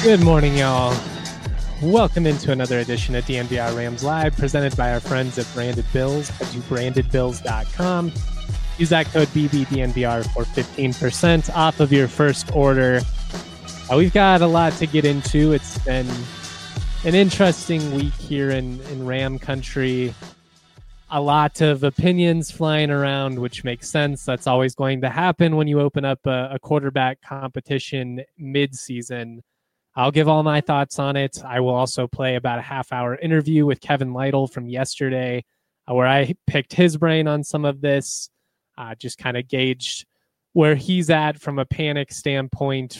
Good morning, y'all. Welcome into another edition of DNVR Rams Live, presented by our friends at Branded Bills. Head to brandedbills.com. Use that code BBDNVR for 15% off of your first order. We've got a lot to get into. It's been an interesting week here in Ram country. A lot of opinions flying around, which makes sense. That's always going to happen when you open up a quarterback competition mid-season. I'll give all my thoughts on it. I will also play about a half-hour interview with Kevin Lytle from yesterday, where I picked his brain on some of this, just kind of gauged where he's at from a panic standpoint.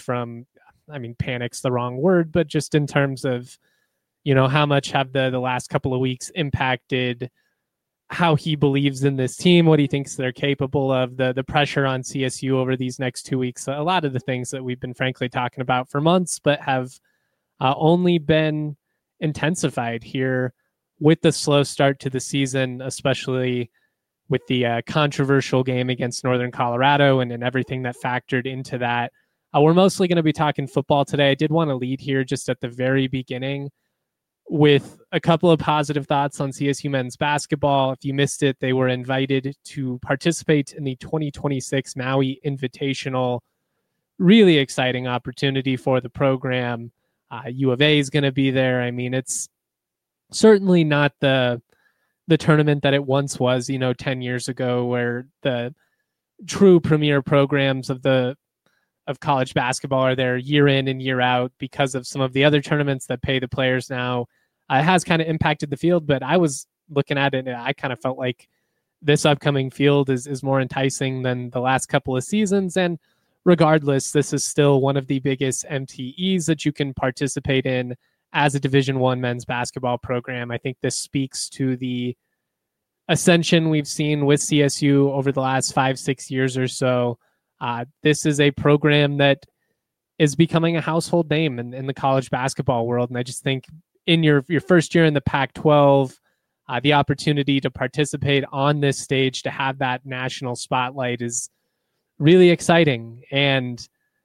Panic's the wrong word, but just in terms of, how much have the last couple of weeks impacted how he believes in this team, what he thinks they're capable of, the pressure on CSU over these next 2 weeks. A lot of the things that we've been frankly talking about for months, but have only been intensified here with the slow start to the season, especially with the controversial game against Northern Colorado and everything that factored into that. We're mostly going to be talking football today. I did want to lead here just at the very beginning with a couple of positive thoughts on CSU men's basketball. If you missed it, they were invited to participate in the 2026 Maui Invitational. Really exciting opportunity for the program. U of A is going to be there. I mean, it's certainly not the tournament that it once was, 10 years ago, where the true premier programs of college basketball are there year in and year out because of some of the other tournaments that pay the players now. It has kind of impacted the field, but I was looking at it and I kind of felt like this upcoming field is more enticing than the last couple of seasons. And regardless, this is still one of the biggest MTEs that you can participate in as a Division I men's basketball program. I think this speaks to the ascension we've seen with CSU over the last 5-6 years or so. This is a program that is becoming a household name in the college basketball world. And I just think in your first year in the Pac-12, the opportunity to participate on this stage, to have that national spotlight, is really exciting. And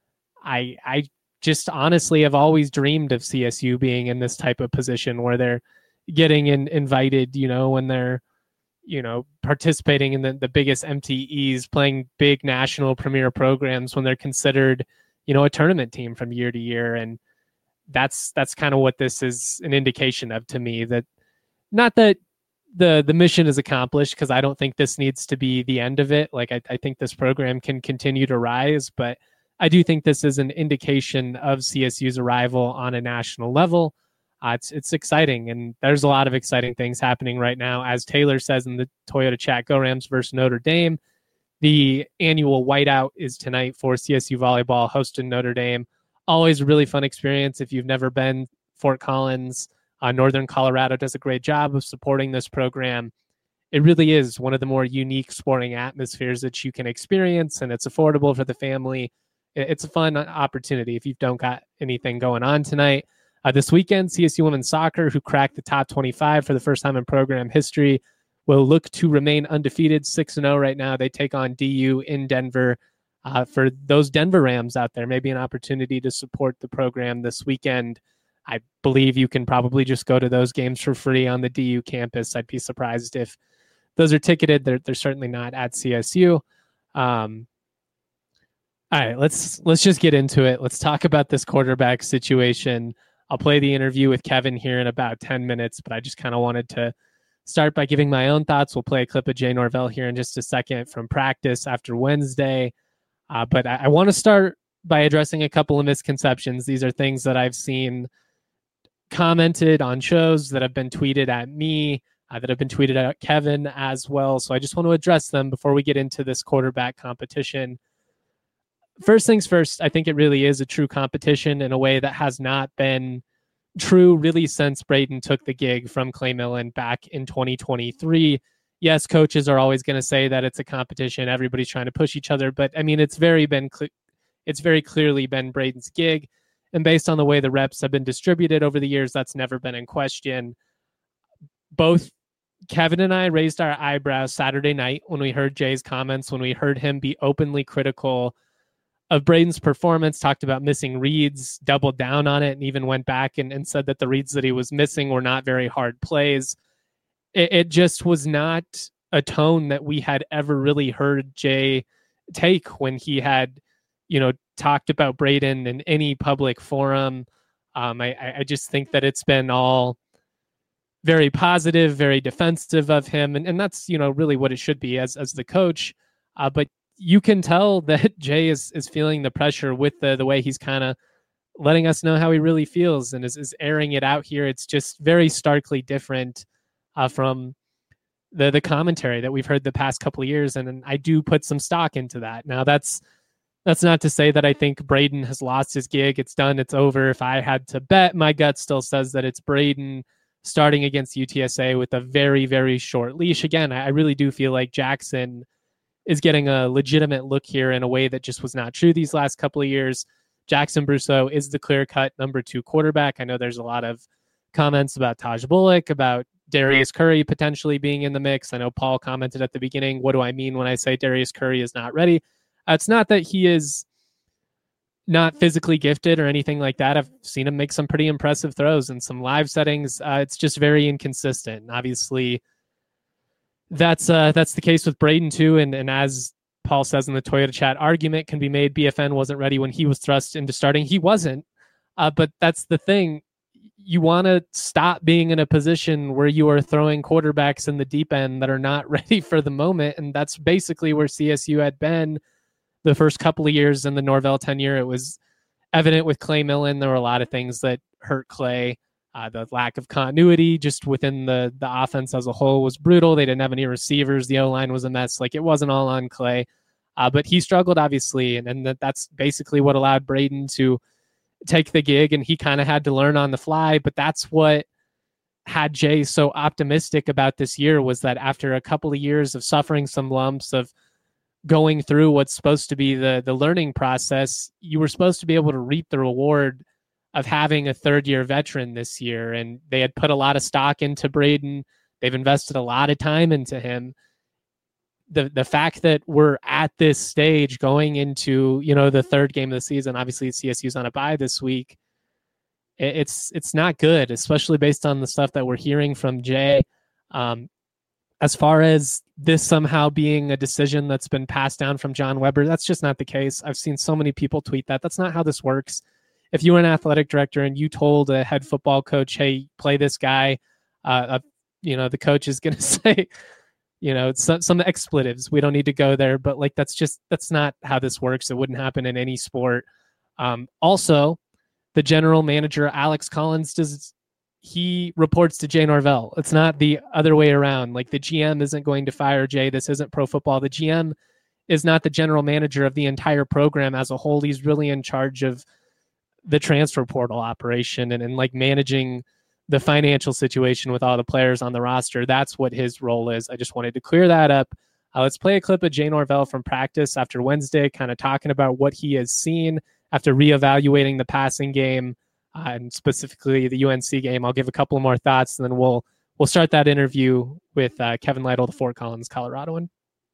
I just honestly have always dreamed of CSU being in this type of position where they're getting invited, when they're, participating in the biggest MTEs, playing big national premier programs, when they're considered, a tournament team from year to year. And that's kind of what this is an indication of to me. That not that the mission is accomplished, because I don't think this needs to be the end of it. Like I think this program can continue to rise, but I do think this is an indication of CSU's arrival on a national level. It's exciting, and there's a lot of exciting things happening right now. As Taylor says in the Toyota chat, go Rams versus Notre Dame. The annual whiteout is tonight for CSU volleyball, hosting Notre Dame. Always a really fun experience. If you've never been, Fort Collins, Northern Colorado does a great job of supporting this program. It really is one of the more unique sporting atmospheres that you can experience, and it's affordable for the family. It's a fun opportunity if you don't got anything going on tonight. This weekend, CSU women's soccer, who cracked the top 25 for the first time in program history, will look to remain undefeated, 6-0 right now. They take on DU in Denver. For those Denver Rams out there, maybe an opportunity to support the program this weekend. I believe you can probably just go to those games for free on the DU campus. I'd be surprised if those are ticketed. They're certainly not at CSU. All right, let's just get into it. Let's talk about this quarterback situation. I'll play the interview with Kevin here in about 10 minutes, but I just kind of wanted to start by giving my own thoughts. We'll play a clip of Jay Norvell here in just a second from practice after Wednesday. But I want to start by addressing a couple of misconceptions. These are things that I've seen commented on shows, that have been tweeted at me, that have been tweeted at Kevin as well. So I just want to address them before we get into this quarterback competition. First things first, I think it really is a true competition in a way that has not been true really since Braden took the gig from Clay Millen back in 2023. Yes, coaches are always going to say that it's a competition. Everybody's trying to push each other. But, I mean, it's very clearly been Braden's gig. And based on the way the reps have been distributed over the years, that's never been in question. Both Kevin and I raised our eyebrows Saturday night when we heard Jay's comments, when we heard him be openly critical of Braden's performance, talked about missing reads, doubled down on it, and even went back and said that the reads that he was missing were not very hard plays. It just was not a tone that we had ever really heard Jay take when he had, talked about Braden in any public forum. I just think that it's been all very positive, very defensive of him. And that's, really what it should be as the coach. But you can tell that Jay is feeling the pressure with the way he's kind of letting us know how he really feels and is airing it out here. It's just very starkly different from the commentary that we've heard the past couple of years. And I do put some stock into that. Now that's not to say that I think Braden has lost his gig. It's done. It's over. If I had to bet, my gut still says that it's Braden starting against UTSA with a very, very short leash. Again, I really do feel like Jackson is getting a legitimate look here in a way that just was not true these last couple of years. Jackson Brousseau is the clear-cut number 2 quarterback. I know there's a lot of comments about Taj Bullock, about Darius Curry potentially being in the mix. I know Paul commented at the beginning, what do I mean when I say Darius Curry is not ready? It's not that he is not physically gifted or anything like that. I've seen him make some pretty impressive throws in some live settings. It's just very inconsistent. And obviously, that's the case with Braden too. And as Paul says in the Toyota chat, argument can be made BFN wasn't ready when he was thrust into starting. He wasn't. But that's the thing. You want to stop being in a position where you are throwing quarterbacks in the deep end that are not ready for the moment. And that's basically where CSU had been the first couple of years in the Norvell tenure. It was evident with Clay Millen. There were a lot of things that hurt Clay. The lack of continuity just within the offense as a whole was brutal. They didn't have any receivers. The O-line was a mess. Like, it wasn't all on Clay. But he struggled, obviously. And that's basically what allowed Braden to take the gig. And he kind of had to learn on the fly. But that's what had Jay so optimistic about this year, was that after a couple of years of suffering some lumps, of going through what's supposed to be the learning process, you were supposed to be able to reap the reward of having a third-year veteran this year. And they had put a lot of stock into Braden. They've invested a lot of time into him. The fact that we're at this stage going into, the third game of the season, obviously CSU's on a bye this week, it's not good, especially based on the stuff that we're hearing from Jay. As far as this somehow being a decision that's been passed down from John Weber, that's just not the case. I've seen so many people tweet that. That's not how this works. If you were an athletic director and you told a head football coach, hey, play this guy, the coach is going to say, some expletives. We don't need to go there, but that's not how this works. It wouldn't happen in any sport. Also, the general manager, Alex Collins, he reports to Jay Norvell. It's not the other way around. Like, the GM isn't going to fire Jay. This isn't pro football. The GM is not the general manager of the entire program as a whole. He's really in charge of the transfer portal operation and managing the financial situation with all the players on the roster. That's what his role is. I just wanted to clear that up. Let's play a clip of Jay Norvell from practice after Wednesday, kind of talking about what he has seen after reevaluating the passing game, and specifically the UNC game. I'll give a couple more thoughts, and then we'll start that interview with Kevin Lytle, the Fort Collins, Coloradoan.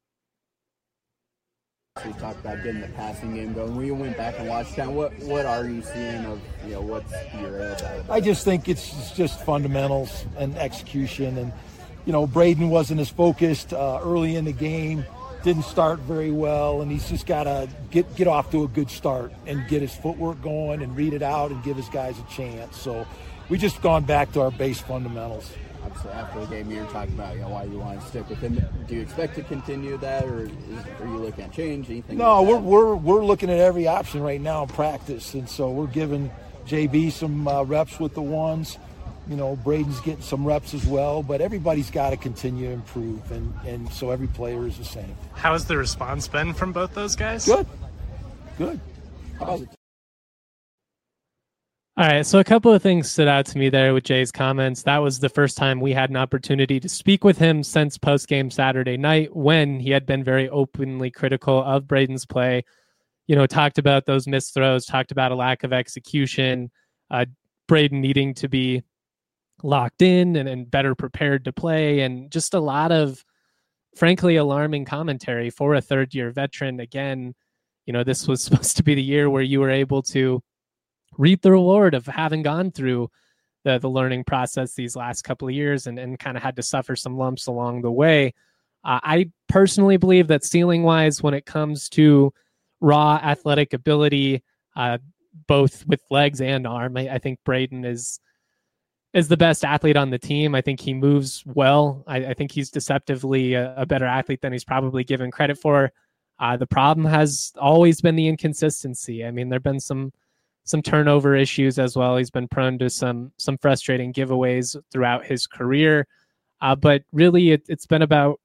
We talked about getting the passing game going. When you went back and watched that, what are you seeing of, what's your about? I just think it's just fundamentals and execution. And, Braden wasn't as focused early in the game, didn't start very well, and he's just got to get off to a good start and get his footwork going and read it out and give his guys a chance. So we just gone back to our base fundamentals. Obviously, after the game, you were talking about why you want to stick with him. Do you expect to continue that, or are you looking at change? Anything? No, we're looking at every option right now in practice, and so we're giving JB some reps with the ones. Braden's getting some reps as well, but everybody's got to continue to improve, and so every player is the same. How has the response been from both those guys? Good. All right, so a couple of things stood out to me there with Jay's comments. That was the first time we had an opportunity to speak with him since post-game Saturday night, when he had been very openly critical of Braden's play. Talked about those missed throws, talked about a lack of execution, Braden needing to be locked in and better prepared to play, and just a lot of, frankly, alarming commentary for a third-year veteran. Again, this was supposed to be the year where you were able to reap the reward of having gone through the learning process these last couple of years and kind of had to suffer some lumps along the way. I personally believe that ceiling wise, when it comes to raw athletic ability, both with legs and arm, I think Braden is the best athlete on the team. I think he moves well. I think he's deceptively a better athlete than he's probably given credit for. The problem has always been the inconsistency. I mean, there've been some turnover issues as well. He's been prone to some frustrating giveaways throughout his career. But really, it's been about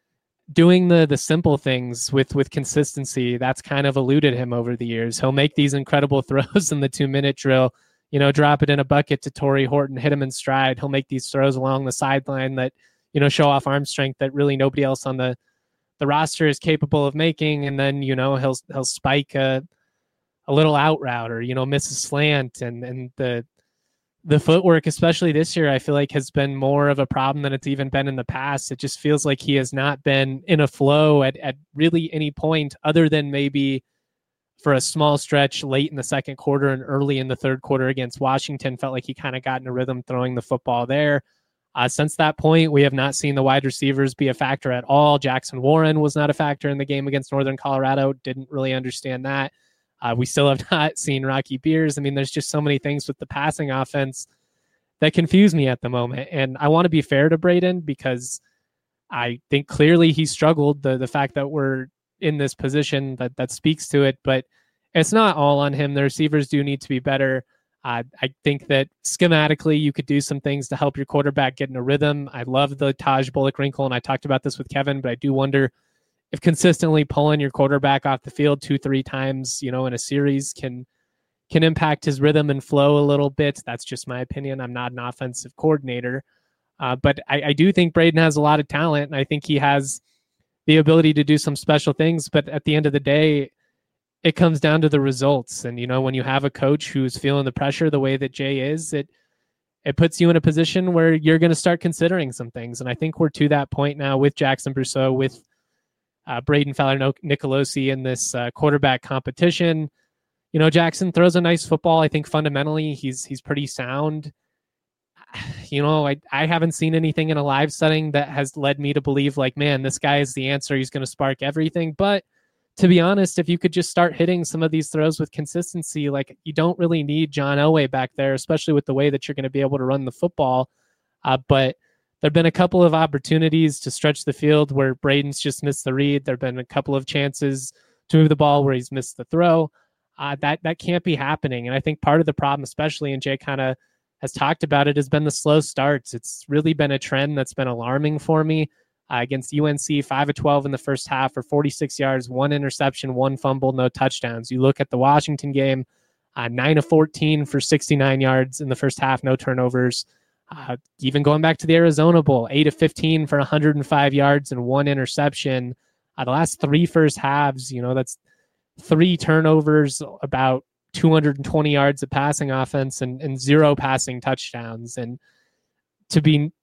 doing the simple things with consistency. That's kind of eluded him over the years. He'll make these incredible throws in the 2-minute drill, drop it in a bucket to Torrey Horton, hit him in stride. He'll make these throws along the sideline that, show off arm strength that really nobody else on the roster is capable of making. And then, he'll spike a little out route or, miss a slant. And the footwork, especially this year, I feel like has been more of a problem than it's even been in the past. It just feels like he has not been in a flow at really any point other than maybe for a small stretch late in the second quarter and early in the third quarter against Washington. Felt like he kind of got in a rhythm throwing the football there. Since that point, we have not seen the wide receivers be a factor at all. Jackson Warren was not a factor in the game against Northern Colorado. Didn't really understand that. We still have not seen Rocky Beers. I mean, there's just so many things with the passing offense that confuse me at the moment. And I want to be fair to Braden because I think clearly he struggled. The fact that we're in this position that speaks to it, but it's not all on him. The receivers do need to be better. I think that schematically you could do some things to help your quarterback get in a rhythm. I love the Taj Bullock wrinkle, and I talked about this with Kevin, but I do wonder if consistently pulling your quarterback off the field 2-3 times, in a series can impact his rhythm and flow a little bit. That's just my opinion. I'm not an offensive coordinator, but I do think Braden has a lot of talent, and I think he has the ability to do some special things. But at the end of the day, it comes down to the results. And, when you have a coach who's feeling the pressure the way that Jay is, it puts you in a position where you're going to start considering some things. And I think we're to that point now with Jackson Brousseau, with Braden Fowler-Nicolosi in this quarterback competition. Jackson throws a nice football. I think fundamentally he's pretty sound. I haven't seen anything in a live setting that has led me to believe like, man, this guy is the answer. He's going to spark everything. But to be honest, if you could just start hitting some of these throws with consistency, like you don't really need John Elway back there, especially with the way that you're going to be able to run the football. But there've been a couple of opportunities to stretch the field where Braden's just missed the read. There've been a couple of chances to move the ball where he's missed the throw. That can't be happening. And I think part of the problem, especially, and Jay kind of has talked about it, has been the slow starts. It's really been a trend that's been alarming for me. Against UNC, 5 of 12 in the first half for 46 yards, 1 interception, 1 fumble, no touchdowns. You look at the Washington game, 9 of 14 for 69 yards in the first half, no turnovers. Even going back to the Arizona Bowl, 8 of 15 for 105 yards and 1 interception. The last 3 first halves, that's 3 turnovers, about 220 yards of passing offense and 0 passing touchdowns. And to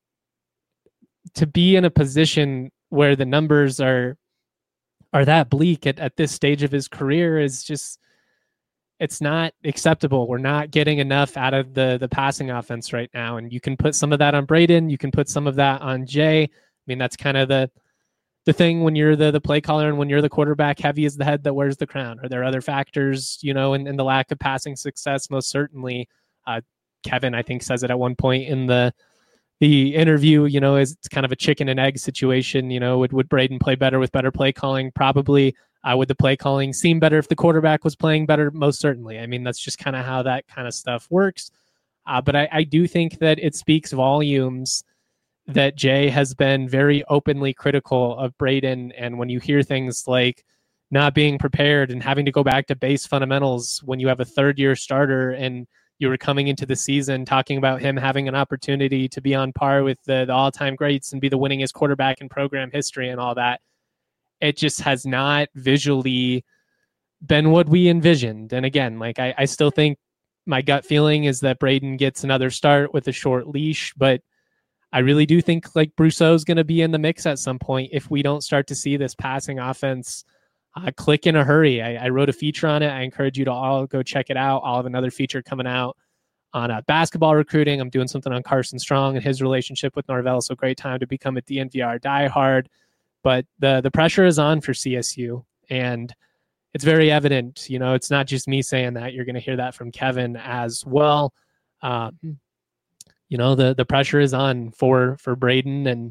be in a position where the numbers are that bleak at this stage of his career is just, it's not acceptable. We're not getting enough out of the passing offense right now. And you can put some of that on Braden. You can put some of that on Jay. I mean, that's kind of the thing when you're the play caller and when you're the quarterback, heavy is the head that wears the crown. Are there other factors, in the lack of passing success? Most certainly. Kevin, I think, says it at one point in the interview, is it's kind of a chicken and egg situation. Would Braden play better with better play calling? Probably. Would the play calling seem better if the quarterback was playing better? Most certainly. I mean, that's just kind of how that kind of stuff works. But I do think that it speaks volumes that Jay has been very openly critical of Braden. And when you hear things like not being prepared and having to go back to base fundamentals when you have a third-year starter and you were coming into the season talking about him having an opportunity to be on par with the all-time greats and be the winningest quarterback in program history and all that, it just has not visually been what we envisioned. And again, like I still think my gut feeling is that Braden gets another start with a short leash, but I really do think like Brousseau is going to be in the mix at some point if we don't start to see this passing offense click in a hurry. I wrote a feature on it. I encourage you to all go check it out. I'll have another feature coming out on basketball recruiting. I'm doing something on Carson Strong and his relationship with Norvell. So great time to become a DNVR diehard. But the pressure is on for CSU, and it's very evident. You know, it's not just me saying that. You're going to hear that from Kevin as well. You know, the pressure is on for Braden, and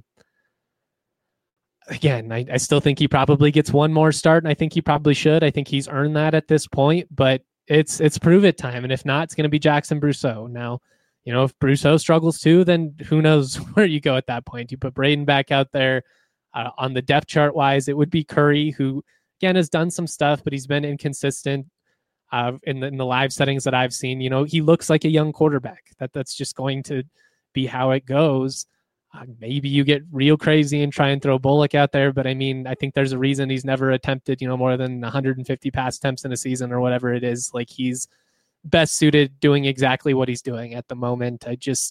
again, I still think he probably gets one more start, and I think he probably should. I think he's earned that at this point, but it's prove it time, and if not, it's going to be Jackson Brousseau. Now, you know, if Brousseau struggles too, then who knows where you go at that point. You put Braden back out there. On the depth chart wise, it would be Curry, who again has done some stuff, but he's been inconsistent in the live settings that I've seen. You know, he looks like a young quarterback. That's just going to be how it goes. Maybe you get real crazy and try and throw Bullock out there, but I mean, I think there's a reason he's never attempted, you know, more than 150 pass attempts in a season or whatever it is. Like, he's best suited doing exactly what he's doing at the moment.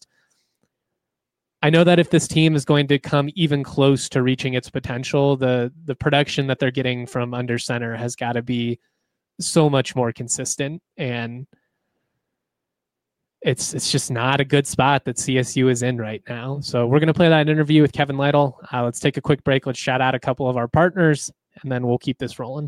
I know that if this team is going to come even close to reaching its potential, the production that they're getting from under center has got to be so much more consistent. And it's just not a good spot that CSU is in right now. So we're going to play that interview with Kevin Lytle. Let's take a quick break. Let's shout out a couple of our partners, and then we'll keep this rolling.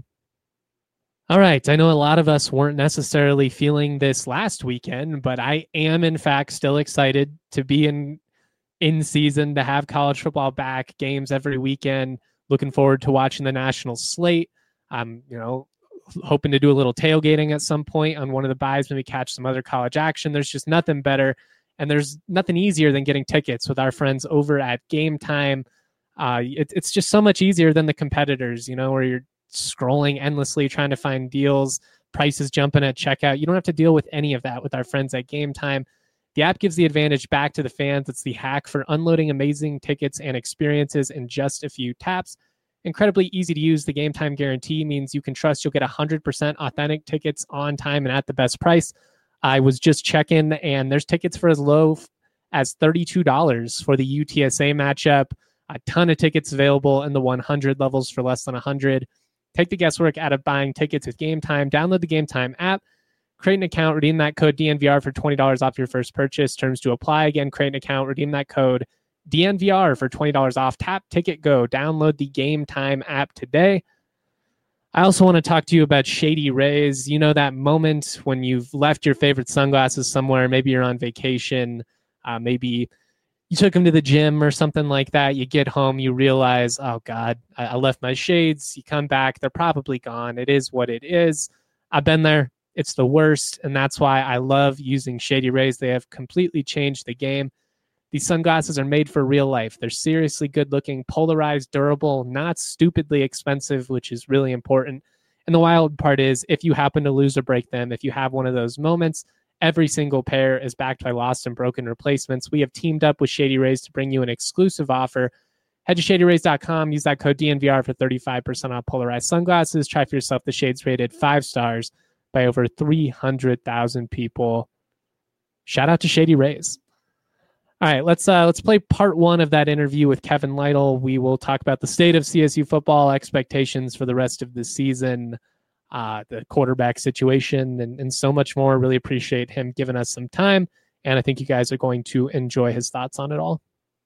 All right. I know a lot of us weren't necessarily feeling this last weekend, but I am, in fact, still excited to be in season, to have college football back, games every weekend. Looking forward to watching the national slate. You know, hoping to do a little tailgating at some point on one of the buys, maybe catch some other college action. There's just nothing better, and there's nothing easier than getting tickets with our friends over at Game Time. It's just so much easier than the competitors, you know, where you're scrolling endlessly trying to find deals, prices jumping at checkout. You don't have to deal with any of that with our friends at Game Time. The app gives the advantage back to the fans. It's the hack for unloading amazing tickets and experiences in just a few taps. Incredibly easy to use. The Game Time guarantee means you can trust you'll get 100% authentic tickets on time and at the best price. I was just checking, and there's tickets for as low as $32 for the UTSA matchup. A ton of tickets available in the 100 levels for less than 100. Take the guesswork out of buying tickets with Game Time. Download the Game Time app. Create an account, redeem that code DNVR for $20 off your first purchase. Terms to apply. Again, create an account, redeem that code DNVR for $20 off. Tap, ticket, go. Download the Game Time app today. I also want to talk to you about Shady Rays. You know, that moment when you've left your favorite sunglasses somewhere. Maybe you're on vacation. Maybe you took them to the gym or something like that. You get home, you realize, oh God, I left my shades. You come back, they're probably gone. It is what it is. I've been there. It's the worst, and that's why I love using Shady Rays. They have completely changed the game. These sunglasses are made for real life. They're seriously good-looking, polarized, durable, not stupidly expensive, which is really important. And the wild part is, if you happen to lose or break them, if you have one of those moments, every single pair is backed by lost and broken replacements. We have teamed up with Shady Rays to bring you an exclusive offer. Head to ShadyRays.com. Use that code DNVR for 35% off polarized sunglasses. Try for yourself the shades rated 5 stars by over 300,000 people. Shout out to Shady Rays. All right, let's play part one of that interview with Kevin Lytle. We will talk about the state of CSU football, expectations for the rest of the season, the quarterback situation, and so much more. Really appreciate him giving us some time, and I think you guys are going to enjoy his thoughts on it all.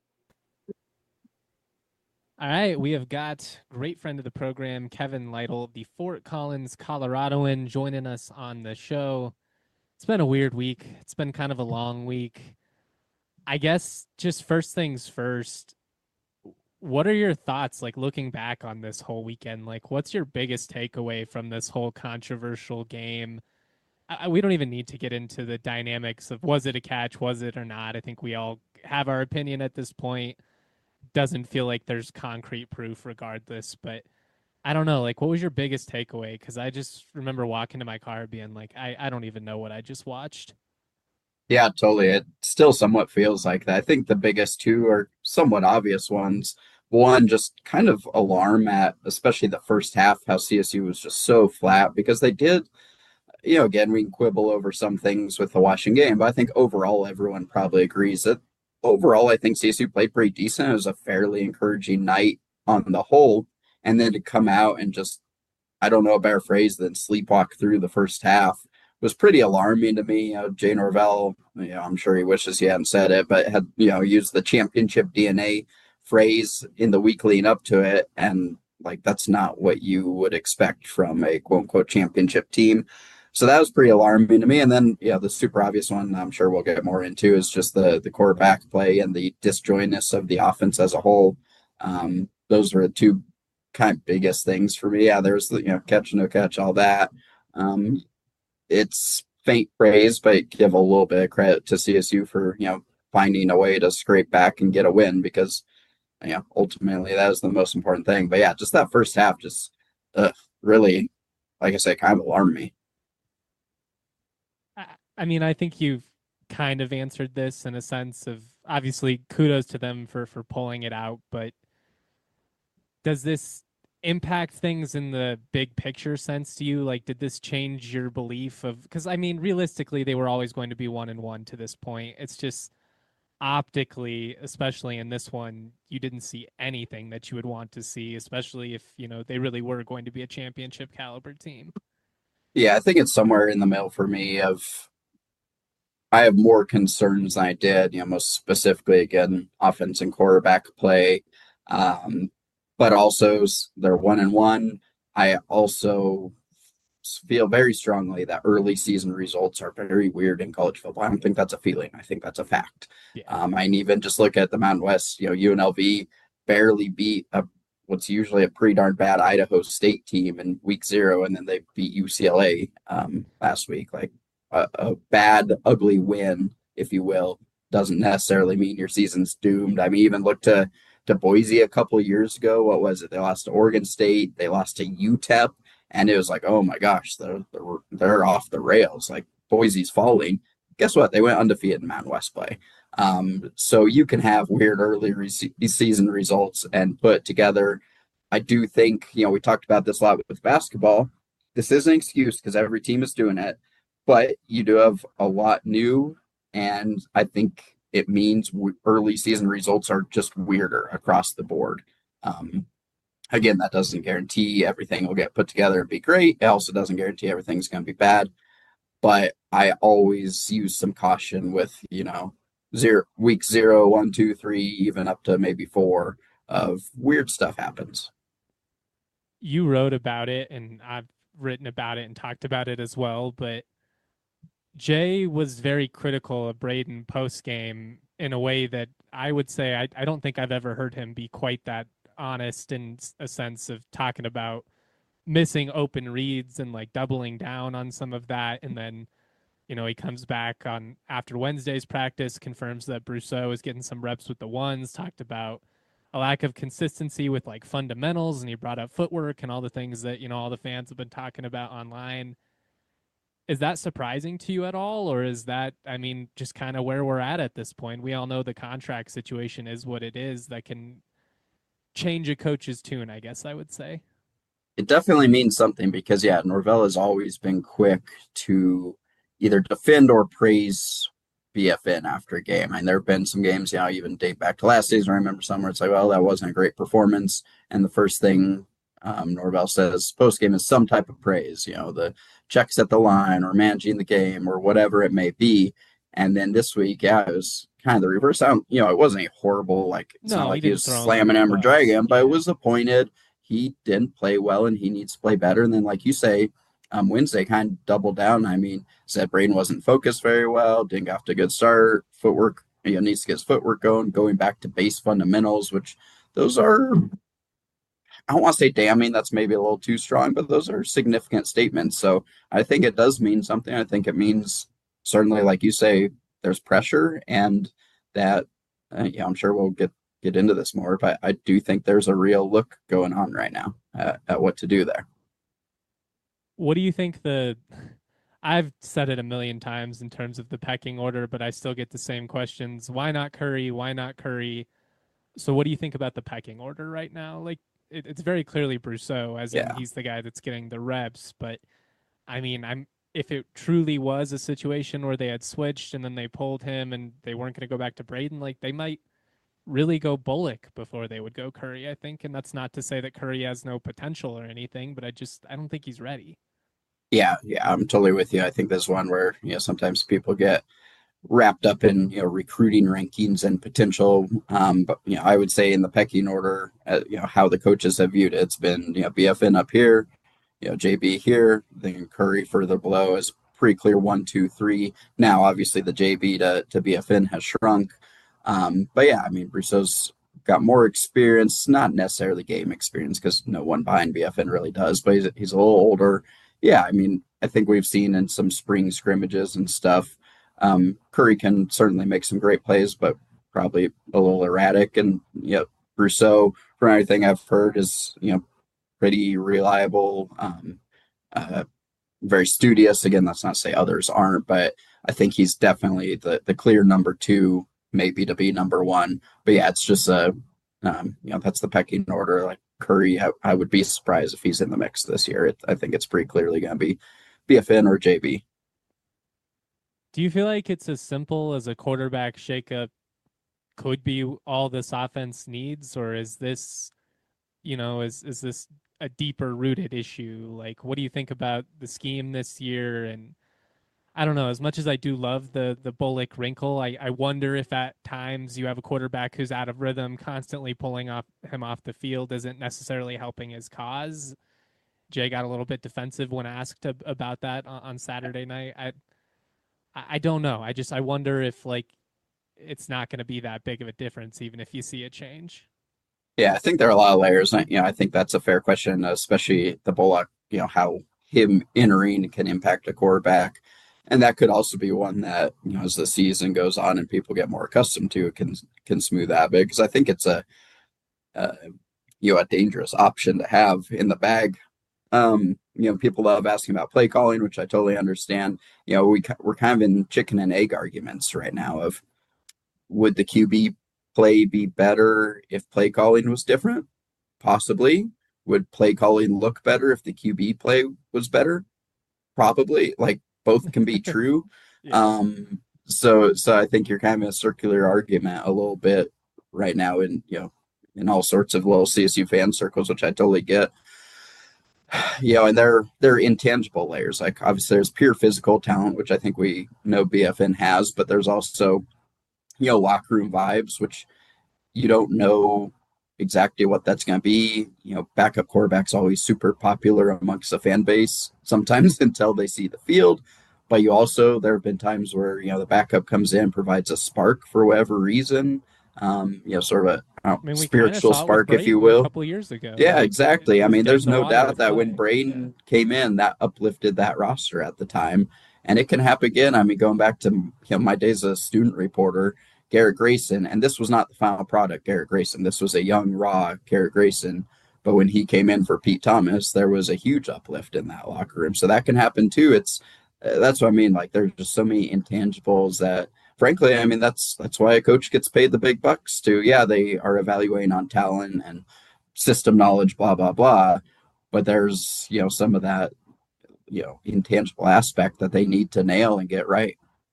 All right, we have got great friend of the program, Kevin Lytle, the Fort Collins, Coloradoan, joining us on the show. It's been a weird week. It's been kind of a long week. I guess just first things first, what are your thoughts, like, looking back on this whole weekend? Like, what's your biggest takeaway from this whole controversial game? We don't even need to get into the dynamics of was it a catch, was it or not. I think we all have our opinion at this point. Doesn't feel like there's concrete proof regardless, but I don't know. Like, what was your biggest takeaway? Because I just remember walking to my car being like, I don't even know what I just watched. Yeah, totally. It still somewhat feels like that. I think the biggest two are somewhat obvious ones. One, just kind of alarm at, especially the first half, how CSU was just so flat because they did, again, we can quibble over some things with the Washington game, but I think overall everyone probably agrees that overall I think CSU played pretty decent. It was a fairly encouraging night on the whole. And then to come out and just I don't know a better phrase than sleepwalk through the first half was pretty alarming to me. Jay Norvell, I'm sure he wishes he hadn't said it, but had, used the championship DNA phrase in the week leading up to it. And like, that's not what you would expect from a quote unquote championship team. So that was pretty alarming to me. And then, the super obvious one I'm sure we'll get more into is just the quarterback play and the disjointness of the offense as a whole. Those were the two kind of biggest things for me. Yeah, there's catch, no catch, all that. It's faint praise, but give a little bit of credit to CSU for finding a way to scrape back and get a win, because ultimately that is the most important thing. But yeah, just that first half just really, like I said, kind of alarmed me. I mean, I think you've kind of answered this in a sense of, obviously kudos to them for pulling it out, but does this impact things in the big picture sense to you? Like, did this change your belief of, because I mean, realistically, they were always going to be 1-1 to this point. It's just optically, especially in this one, you didn't see anything that you would want to see, especially if, they really were going to be a championship caliber team. Yeah, I think it's somewhere in the middle for me of, I have more concerns than I did, most specifically, again, offense and quarterback play. But also they're 1-1. I also feel very strongly that early season results are very weird in college football. I don't think that's a feeling. I think that's a fact. Yeah. I even just look at the Mountain West, UNLV barely beat what's usually a pretty darn bad Idaho State team in week 0, and then they beat UCLA last week. Like a bad, ugly win, if you will, doesn't necessarily mean your season's doomed. I mean, even look to Boise a couple of years ago. What was it? They lost to Oregon State. They lost to UTEP, and it was like, oh my gosh, they're off the rails. Like, Boise's falling. Guess what? They went undefeated in Mountain West play. So you can have weird early season results and put together. I do think, we talked about this a lot with basketball. This is an excuse because every team is doing it, but you do have a lot new, and I think it means early season results are just weirder across the board. Again, that doesn't guarantee everything will get put together and be great. It also doesn't guarantee everything's going to be bad. But I always use some caution with, week 0, 1, 2, 3, even up to maybe 4 of weird stuff happens. You wrote about it, and I've written about it and talked about it as well, but Jay was very critical of Braden post game in a way that I would say I don't think I've ever heard him be quite that honest, in a sense of talking about missing open reads and like doubling down on some of that. And then, he comes back on after Wednesday's practice, confirms that Brousseau is getting some reps with the ones, talked about a lack of consistency with like fundamentals, and he brought up footwork and all the things that, all the fans have been talking about online. Is that surprising to you at all? Or is that, I mean, just kind of where we're at this point? We all know the contract situation is what it is. That can change a coach's tune, I guess I would say. It definitely means something because, Norvell has always been quick to either defend or praise BFN after a game. And there have been some games, even date back to last season. I remember somewhere it's like, well, that wasn't a great performance. And the first thing Norvell says post game is some type of praise, the checks at the line or managing the game or whatever it may be. And then this week, it was kind of the reverse. It wasn't a horrible, it's not like he was slamming him or dragging him, but it was appointed. He didn't play well and he needs to play better. And then, like you say, Wednesday kind of doubled down. I mean, said Braden wasn't focused very well, didn't get off to a good start. Footwork, needs to get his footwork going back to base fundamentals, which those are, I don't want to say damning, that's maybe a little too strong, but those are significant statements. So I think it does mean something. I think it means certainly, like you say, there's pressure, and that, I'm sure we'll get into this more, but I do think there's a real look going on right now at what to do there. What do you think I've said it a million times in terms of the pecking order, but I still get the same questions. Why not Curry? Why not Curry? So what do you think about the pecking order right now? Like, it's very clearly Brousseau, as in he's the guy that's getting the reps. But I mean, if it truly was a situation where they had switched and then they pulled him and they weren't going to go back to Braden, like they might really go Bullock before they would go Curry, I think. And that's not to say that Curry has no potential or anything, but I don't think he's ready. Yeah, I'm totally with you. I think there's one where, sometimes people get wrapped up in, recruiting rankings and potential. But, I would say in the pecking order, how the coaches have viewed it, it's been, BFN up here, JB here, then Curry further below is pretty clear 1, 2, 3. Now, obviously, the JB to BFN has shrunk. But yeah, I mean, Brousseau's got more experience, not necessarily game experience because no one behind BFN really does, but he's a little older. Yeah, I mean, I think we've seen in some spring scrimmages and stuff. Curry can certainly make some great plays, but probably a little erratic. And Brousseau, from everything I've heard, is pretty reliable, uh, very studious. Again, that's not to say others aren't, but I think he's definitely the clear number two, maybe to be number one. But yeah, it's just that's the pecking order. Like Curry, I would be surprised if he's in the mix this year. I think it's pretty clearly going to be BFN or JB. Do you feel like it's as simple as a quarterback shakeup could be all this offense needs, or is this, is this a deeper rooted issue? Like, what do you think about the scheme this year? And I don't know, as much as I do love the Bullock wrinkle, I wonder if at times you have a quarterback who's out of rhythm, constantly pulling him off the field isn't necessarily helping his cause. Jay got a little bit defensive when asked about that on Saturday night. I don't know. I wonder if like it's not going to be that big of a difference, even if you see a change. Yeah, I think there are a lot of layers. I think that's a fair question, especially the Bullock. How him entering can impact a quarterback, and that could also be one that as the season goes on and people get more accustomed to, it can smooth that bit. Because I think it's a a dangerous option to have in the bag. People love asking about play calling, which I totally understand. We're kind of in chicken and egg arguments right now of would the QB play be better if play calling was different? Possibly. Would play calling look better if the QB play was better? Probably. Like both can be true. Yeah. So I think you're kind of in a circular argument a little bit right now in all sorts of little CSU fan circles, which I totally get. And they're intangible layers. Like obviously there's pure physical talent, which I think we know BFN has, but there's also locker room vibes, which you don't know exactly what that's going to be. Backup quarterback's always super popular amongst the fan base sometimes until they see the field. But there have been times where, the backup comes in, provides a spark for whatever reason, sort of a spiritual spark, if you will. A couple of years ago. Yeah, exactly. I mean, there's no doubt that when Braden came in, that uplifted that roster at the time. And it can happen again. I mean, going back to my days as a student reporter, Garrett Grayson, and this was not the final product, Garrett Grayson. This was a young, raw Garrett Grayson. But when he came in for Pete Thomas, there was a huge uplift in that locker room. So that can happen too. That's what I mean. Like there's just so many intangibles that, frankly, I mean, that's why a coach gets paid the big bucks to. Yeah, they are evaluating on talent and system knowledge, blah, blah, blah. But there's, some of that, intangible aspect that they need to nail and get right.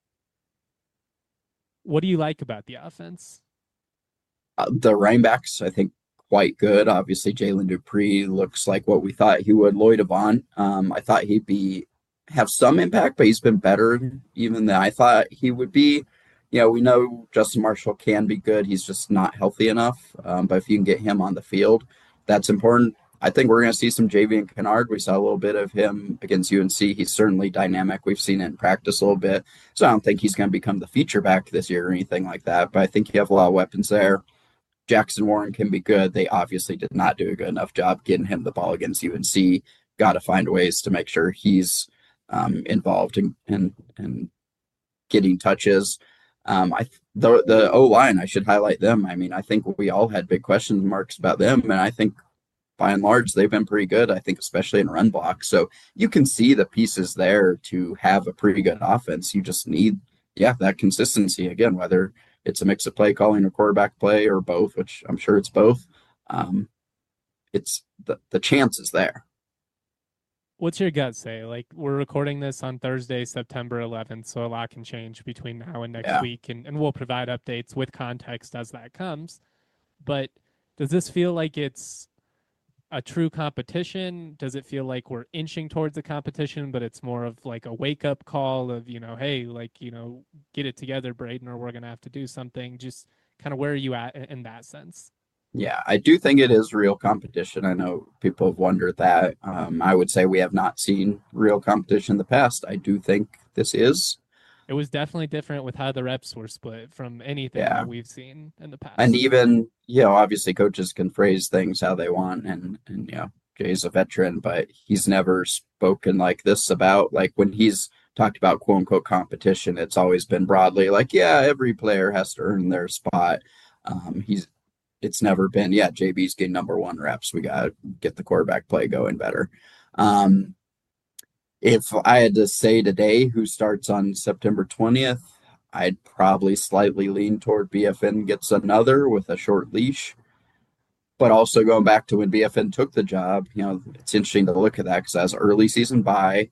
What do you like about the offense? The running backs, I think, quite good. Obviously, Jalen Dupree looks like what we thought he would. Lloyd Avant, I thought he'd have some impact, but he's been better even than I thought he would be. We know Justin Marshall can be good. He's just not healthy enough. But if you can get him on the field, that's important. I think we're going to see some Javian Kennard. We saw a little bit of him against UNC. He's certainly dynamic. We've seen it in practice a little bit. So I don't think he's going to become the feature back this year or anything like that. But I think you have a lot of weapons there. Jackson Warren can be good. They obviously did not do a good enough job getting him the ball against UNC. Got to find ways to make sure he's involved in getting touches. The O-line, I should highlight them. I mean, I think we all had big question marks about them, and I think by and large, they've been pretty good, I think, especially in run block. So you can see the pieces there to have a pretty good offense. You just need, that consistency. Again, whether it's a mix of play calling or quarterback play or both, which I'm sure it's both. It's the chance is there. What's your gut say? Like, we're recording this on Thursday, September 11th, so a lot can change between now and next Yeah. week, and we'll provide updates with context as that comes. But does this feel like it's a true competition? Does it feel like we're inching towards a competition, but it's more of like a wake up call of, hey, like, get it together, Braden, or we're going to have to do something? Just kind of where are you at in that sense? Yeah, I do think it is real competition. I know people have wondered that. I would say we have not seen real competition in the past. I do think this is. It was definitely different with how the reps were split from anything Yeah. that we've seen in the past. And even, obviously coaches can phrase things how they want. And Jay's a veteran, but he's never spoken like this about, like, when he's talked about quote unquote competition, it's always been broadly like, yeah, every player has to earn their spot. It's never been, yeah, JB's getting number one reps. We got to get the quarterback play going better. If I had to say today who starts on September 20th, I'd probably slightly lean toward BFN gets another with a short leash. But also going back to when BFN took the job, it's interesting to look at that because as early season bye,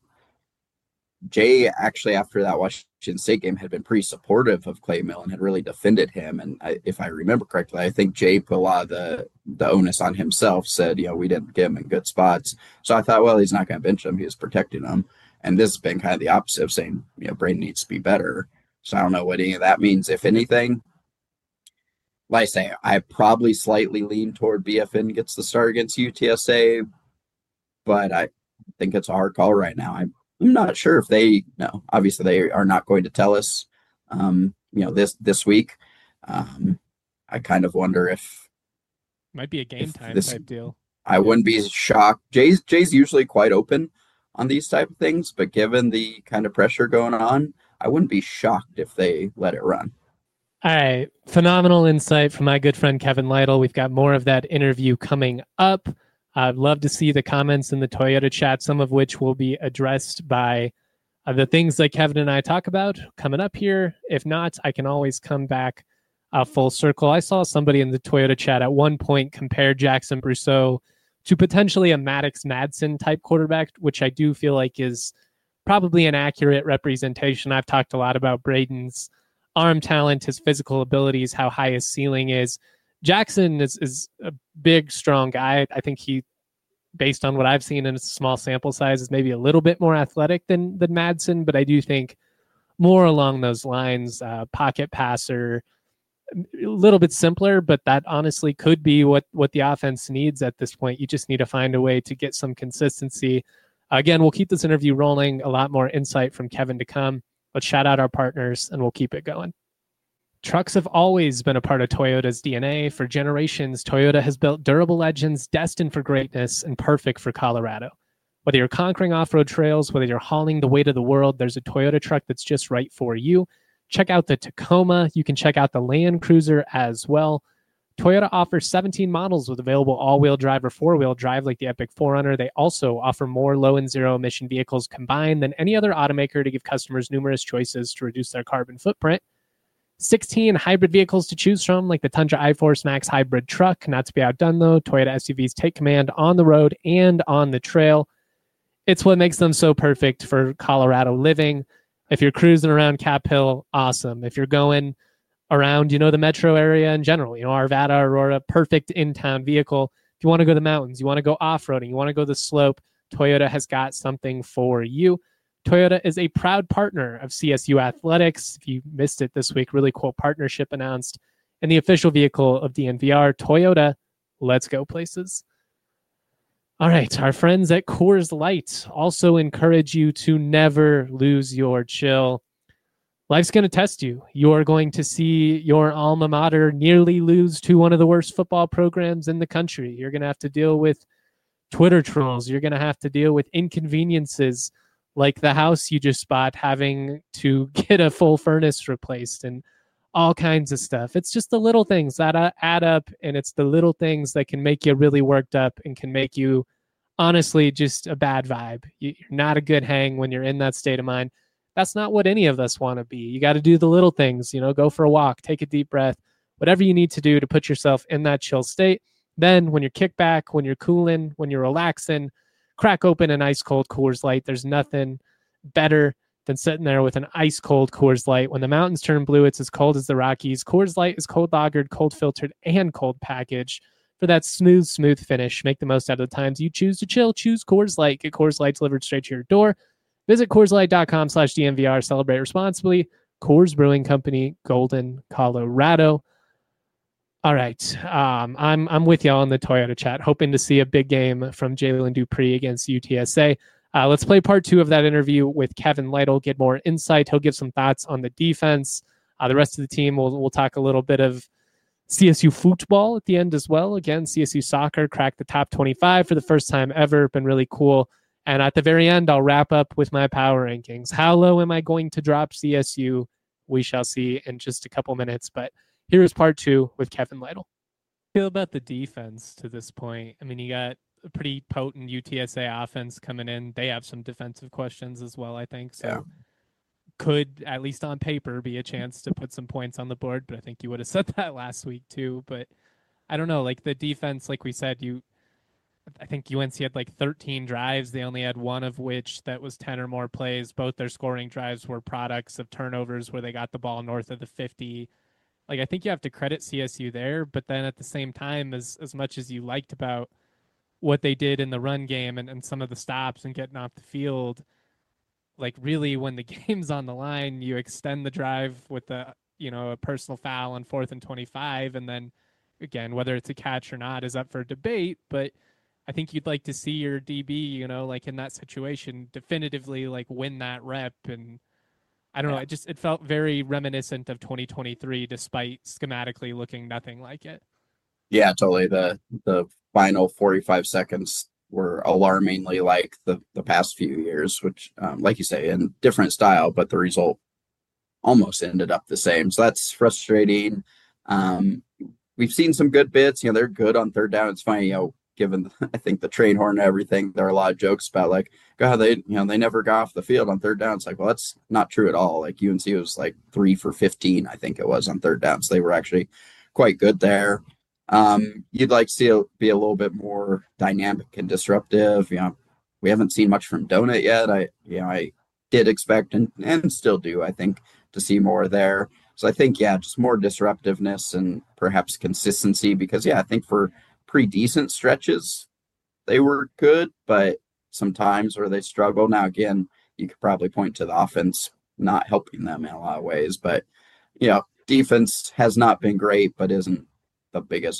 Jay actually after that Washington State game had been pretty supportive of Clay Millen, had really defended him. And if I remember correctly, I think Jay put a lot of the onus on himself, said, we didn't get him in good spots. So I thought, well, he's not going to bench him. He was protecting him. And this has been kind of the opposite of saying, Braden needs to be better. So I don't know what any of that means, if anything. Like I say, I probably slightly lean toward BFN gets the start against UTSA, but I think it's a hard call right now. I'm not sure if they know. Obviously, they are not going to tell us, this week. I kind of wonder if might be a game time type deal. I wouldn't be shocked. Jay's usually quite open on these type of things, but given the kind of pressure going on, I wouldn't be shocked if they let it run. All right. Phenomenal insight from my good friend Kevin Lytle. We've got more of that interview coming up. I'd love to see the comments in the Toyota chat, some of which will be addressed by the things that Kevin and I talk about coming up here. If not, I can always come back full circle. I saw somebody in the Toyota chat at one point compare Jackson Brousseau to potentially a Maddox Madsen type quarterback, which I do feel like is probably an accurate representation. I've talked a lot about Braden's arm talent, his physical abilities, how high his ceiling is. Jackson is a big, strong guy. I think he, based on what I've seen in a small sample size, is maybe a little bit more athletic than Madsen, but I do think more along those lines, pocket passer, a little bit simpler, but that honestly could be what the offense needs at this point. You just need to find a way to get some consistency. Again, we'll keep this interview rolling, a lot more insight from Kevin to come. Let's shout out our partners and we'll keep it going. Trucks have always been a part of Toyota's DNA. For generations, Toyota has built durable legends destined for greatness and perfect for Colorado. Whether you're conquering off-road trails, whether you're hauling the weight of the world, there's a Toyota truck that's just right for you. Check out the Tacoma. You can check out the Land Cruiser as well. Toyota offers 17 models with available all-wheel drive or four-wheel drive like the Epic 4Runner. They also offer more low and zero-emission vehicles combined than any other automaker to give customers numerous choices to reduce their carbon footprint. 16 hybrid vehicles to choose from, like the Tundra iForce Max hybrid truck. Not to be outdone, though, Toyota SUVs take command on the road and on the trail. It's what makes them so perfect for Colorado living. If you're cruising around Cap Hill, awesome. If you're going around, the metro area in general, Arvada, Aurora, perfect in-town vehicle. If you want to go to the mountains, you want to go off-roading, you want to go the slope, Toyota has got something for you. Toyota is a proud partner of CSU Athletics. If you missed it this week, really cool partnership announced. And the official vehicle of DNVR, Toyota, let's go places. All right, our friends at Coors Light also encourage you to never lose your chill. Life's going to test you. You're going to see your alma mater nearly lose to one of the worst football programs in the country. You're going to have to deal with Twitter trolls. You're going to have to deal with inconveniences like the house you just bought having to get a full furnace replaced and all kinds of stuff. It's just the little things that add up, and it's the little things that can make you really worked up and can make you, honestly, just a bad vibe. You're not a good hang when you're in that state of mind. That's not what any of us want to be. You got to do the little things, go for a walk, take a deep breath, whatever you need to do to put yourself in that chill state. Then when you're kicked back, when you're cooling, when you're relaxing, crack open an ice cold Coors Light. There's nothing better than sitting there with an ice cold Coors Light. When the mountains turn blue, it's as cold as the Rockies. Coors Light is cold lagered, cold filtered, and cold packaged for that smooth finish. Make the most out of the times you choose to chill. Choose Coors Light. Get Coors Light delivered straight to your door. Visit CoorsLight.com/DNVR. Celebrate responsibly. Coors Brewing Company, Golden, Colorado. All right. I'm with y'all in the Toyota chat, hoping to see a big game from Jalen Dupree against UTSA. Let's play part 2 of that interview with Kevin Lytle, get more insight. He'll give some thoughts on the defense. The rest of the team, we'll talk a little bit of CSU football at the end as well. Again, CSU soccer cracked the top 25 for the first time ever. Been really cool. And at the very end, I'll wrap up with my power rankings. How low am I going to drop CSU? We shall see in just a couple minutes. But here is part 2 with Kevin Lytle. Feel about the defense to this point. I mean, you got a pretty potent UTSA offense coming in. They have some defensive questions as well, I think. So could, at least on paper, be a chance to put some points on the board. But I think you would have said that last week too. But I don't know, like the defense, like we said, I think UNC had like 13 drives. They only had one of which that was 10 or more plays. Both their scoring drives were products of turnovers where they got the ball north of the 50. Like, I think you have to credit CSU there, but then at the same time, as much as you liked about what they did in the run game and some of the stops and getting off the field, like really when the game's on the line, you extend the drive with a personal foul on 4th and 25. And then again, whether it's a catch or not is up for debate, but I think you'd like to see your DB, like in that situation, definitively like win that rep. And I don't know, it felt very reminiscent of 2023, despite schematically looking nothing like it. Yeah, totally. The final 45 seconds were alarmingly like the past few years, which, like you say, in different style, but the result almost ended up the same. So that's frustrating. We've seen some good bits. They're good on third down. It's funny, given I think the train horn and everything, there are a lot of jokes about like, God, they never got off the field on third down. It's like, well, that's not true at all. Like UNC was like 3 for 15, I think it was on third down. So they were actually quite good there. You'd like to see it be a little bit more dynamic and disruptive. We haven't seen much from Donut yet. I did expect and still do, I think, to see more there. So I think, just more disruptiveness and perhaps consistency because, I think for pretty decent stretches, they were good, but sometimes where they struggle. Now, again, you could probably point to the offense not helping them in a lot of ways, but, defense has not been great, but isn't the biggest,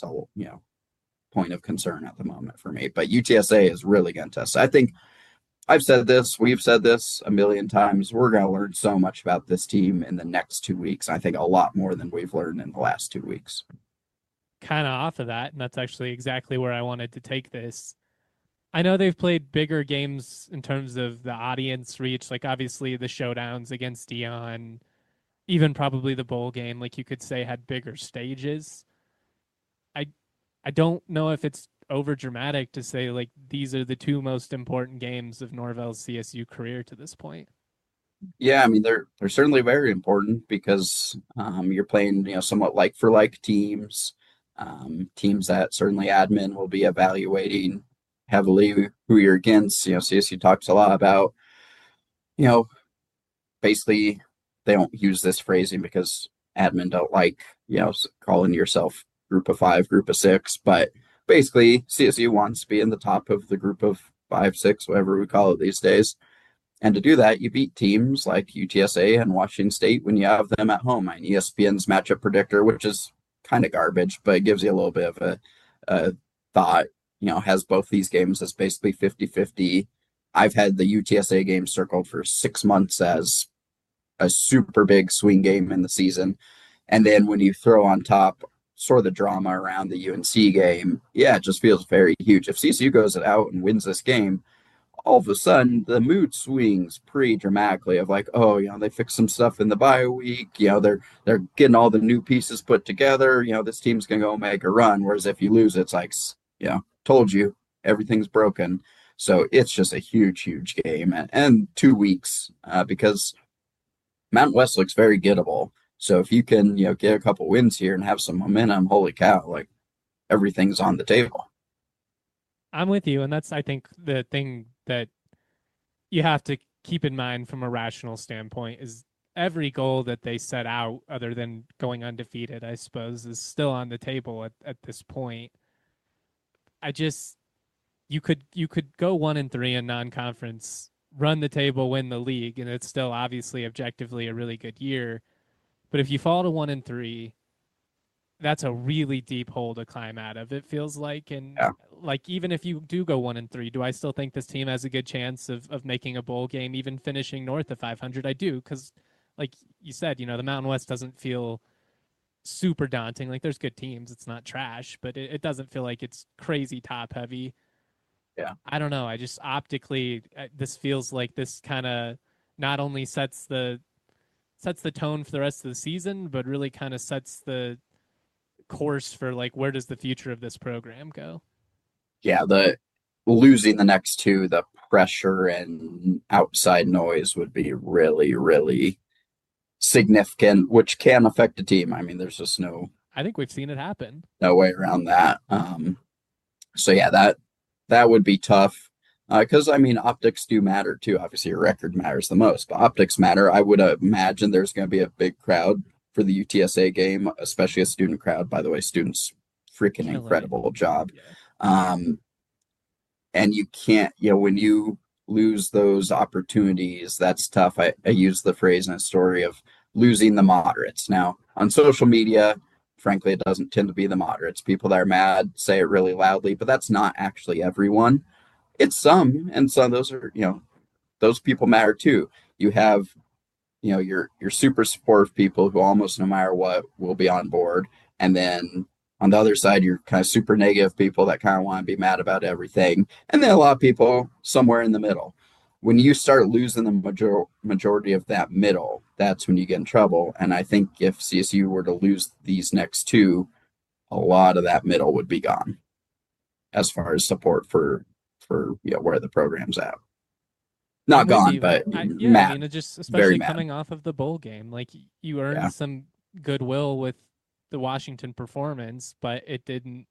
point of concern at the moment for me. But UTSA is really going to test. I think I've said this, we've said this a million times. We're going to learn so much about this team in the next 2 weeks. I think a lot more than we've learned in the last 2 weeks. Kind of off of that, and that's actually exactly where I wanted to take this. I know they've played bigger games in terms of the audience reach, like obviously the showdowns against Dion, even probably the bowl game, like you could say, had bigger stages. I don't know if it's over dramatic to say like these are the 2 most important games of Norvell's CSU career to this point. Yeah, I mean they're certainly very important because you're playing somewhat like for like teams, teams that certainly admin will be evaluating heavily who you're against. CSU talks a lot about basically they don't use this phrasing because admin don't like calling yourself group of 5, group of 6, but basically CSU wants to be in the top of the group of 5, 6, whatever we call it these days. And to do that, you beat teams like UTSA and Washington State when you have them at home. I mean, ESPN's matchup predictor, which is kind of garbage, but it gives you a little bit of a thought, has both these games as basically 50-50. I've had the UTSA game circled for 6 months as a super big swing game in the season. And then when you throw on top sort of the drama around the UNC game, it just feels very huge. If CSU goes out and wins this game, all of a sudden the mood swings pretty dramatically of like, they fixed some stuff in the bye week. They're getting all the new pieces put together. This team's going to go make a run. Whereas if you lose, it's like, told you everything's broken. So it's just a huge, huge game and 2 weeks because Mountain West looks very gettable. So if you can, get a couple wins here and have some momentum, holy cow, like everything's on the table. I'm with you, and that's I think the thing that you have to keep in mind from a rational standpoint is every goal that they set out, other than going undefeated, I suppose, is still on the table at this point. I just you could go 1-3 in non-conference, run the table, win the league, and it's still obviously objectively a really good year. But if you fall to 1-3, that's a really deep hole to climb out of. It feels like, and Yeah. like even if you do go 1-3, do I still think this team has a good chance of making a bowl game, even finishing north of 500? I do, because like you said, the Mountain West doesn't feel super daunting. Like there's good teams, it's not trash, but it doesn't feel like it's crazy top heavy. Yeah. I don't know. I just optically, this feels like this kind of not only sets the tone for the rest of the season, but really kind of sets the course for like where does the future of this program go? Yeah, the losing the next two, the pressure and outside noise would be really, really significant, which can affect a team. I mean, there's just I think we've seen it happen. no way around that. So yeah, that would be tough. Because I mean, optics do matter too. Obviously, your record matters the most, but optics matter. I would imagine there's going to be a big crowd for the UTSA game, especially a student crowd. By the way, students freaking incredible job. Yeah. And you can't, when you lose those opportunities, that's tough. I use the phrase in a story of losing the moderates. Now, on social media, frankly, it doesn't tend to be the moderates. People that are mad say it really loudly, but that's not actually everyone. It's some, and some of those are, those people matter too. You have, your super supportive people who almost no matter what will be on board. And then on the other side, you're kind of super negative people that kind of want to be mad about everything. And then a lot of people somewhere in the middle. When you start losing the majority of that middle, that's when you get in trouble. And I think if CSU were to lose these next two, a lot of that middle would be gone as far as support for where the program's at. Not gone, but mad. I mean, just especially coming off of the bowl game, like you earned some goodwill with the Washington performance, but it didn't.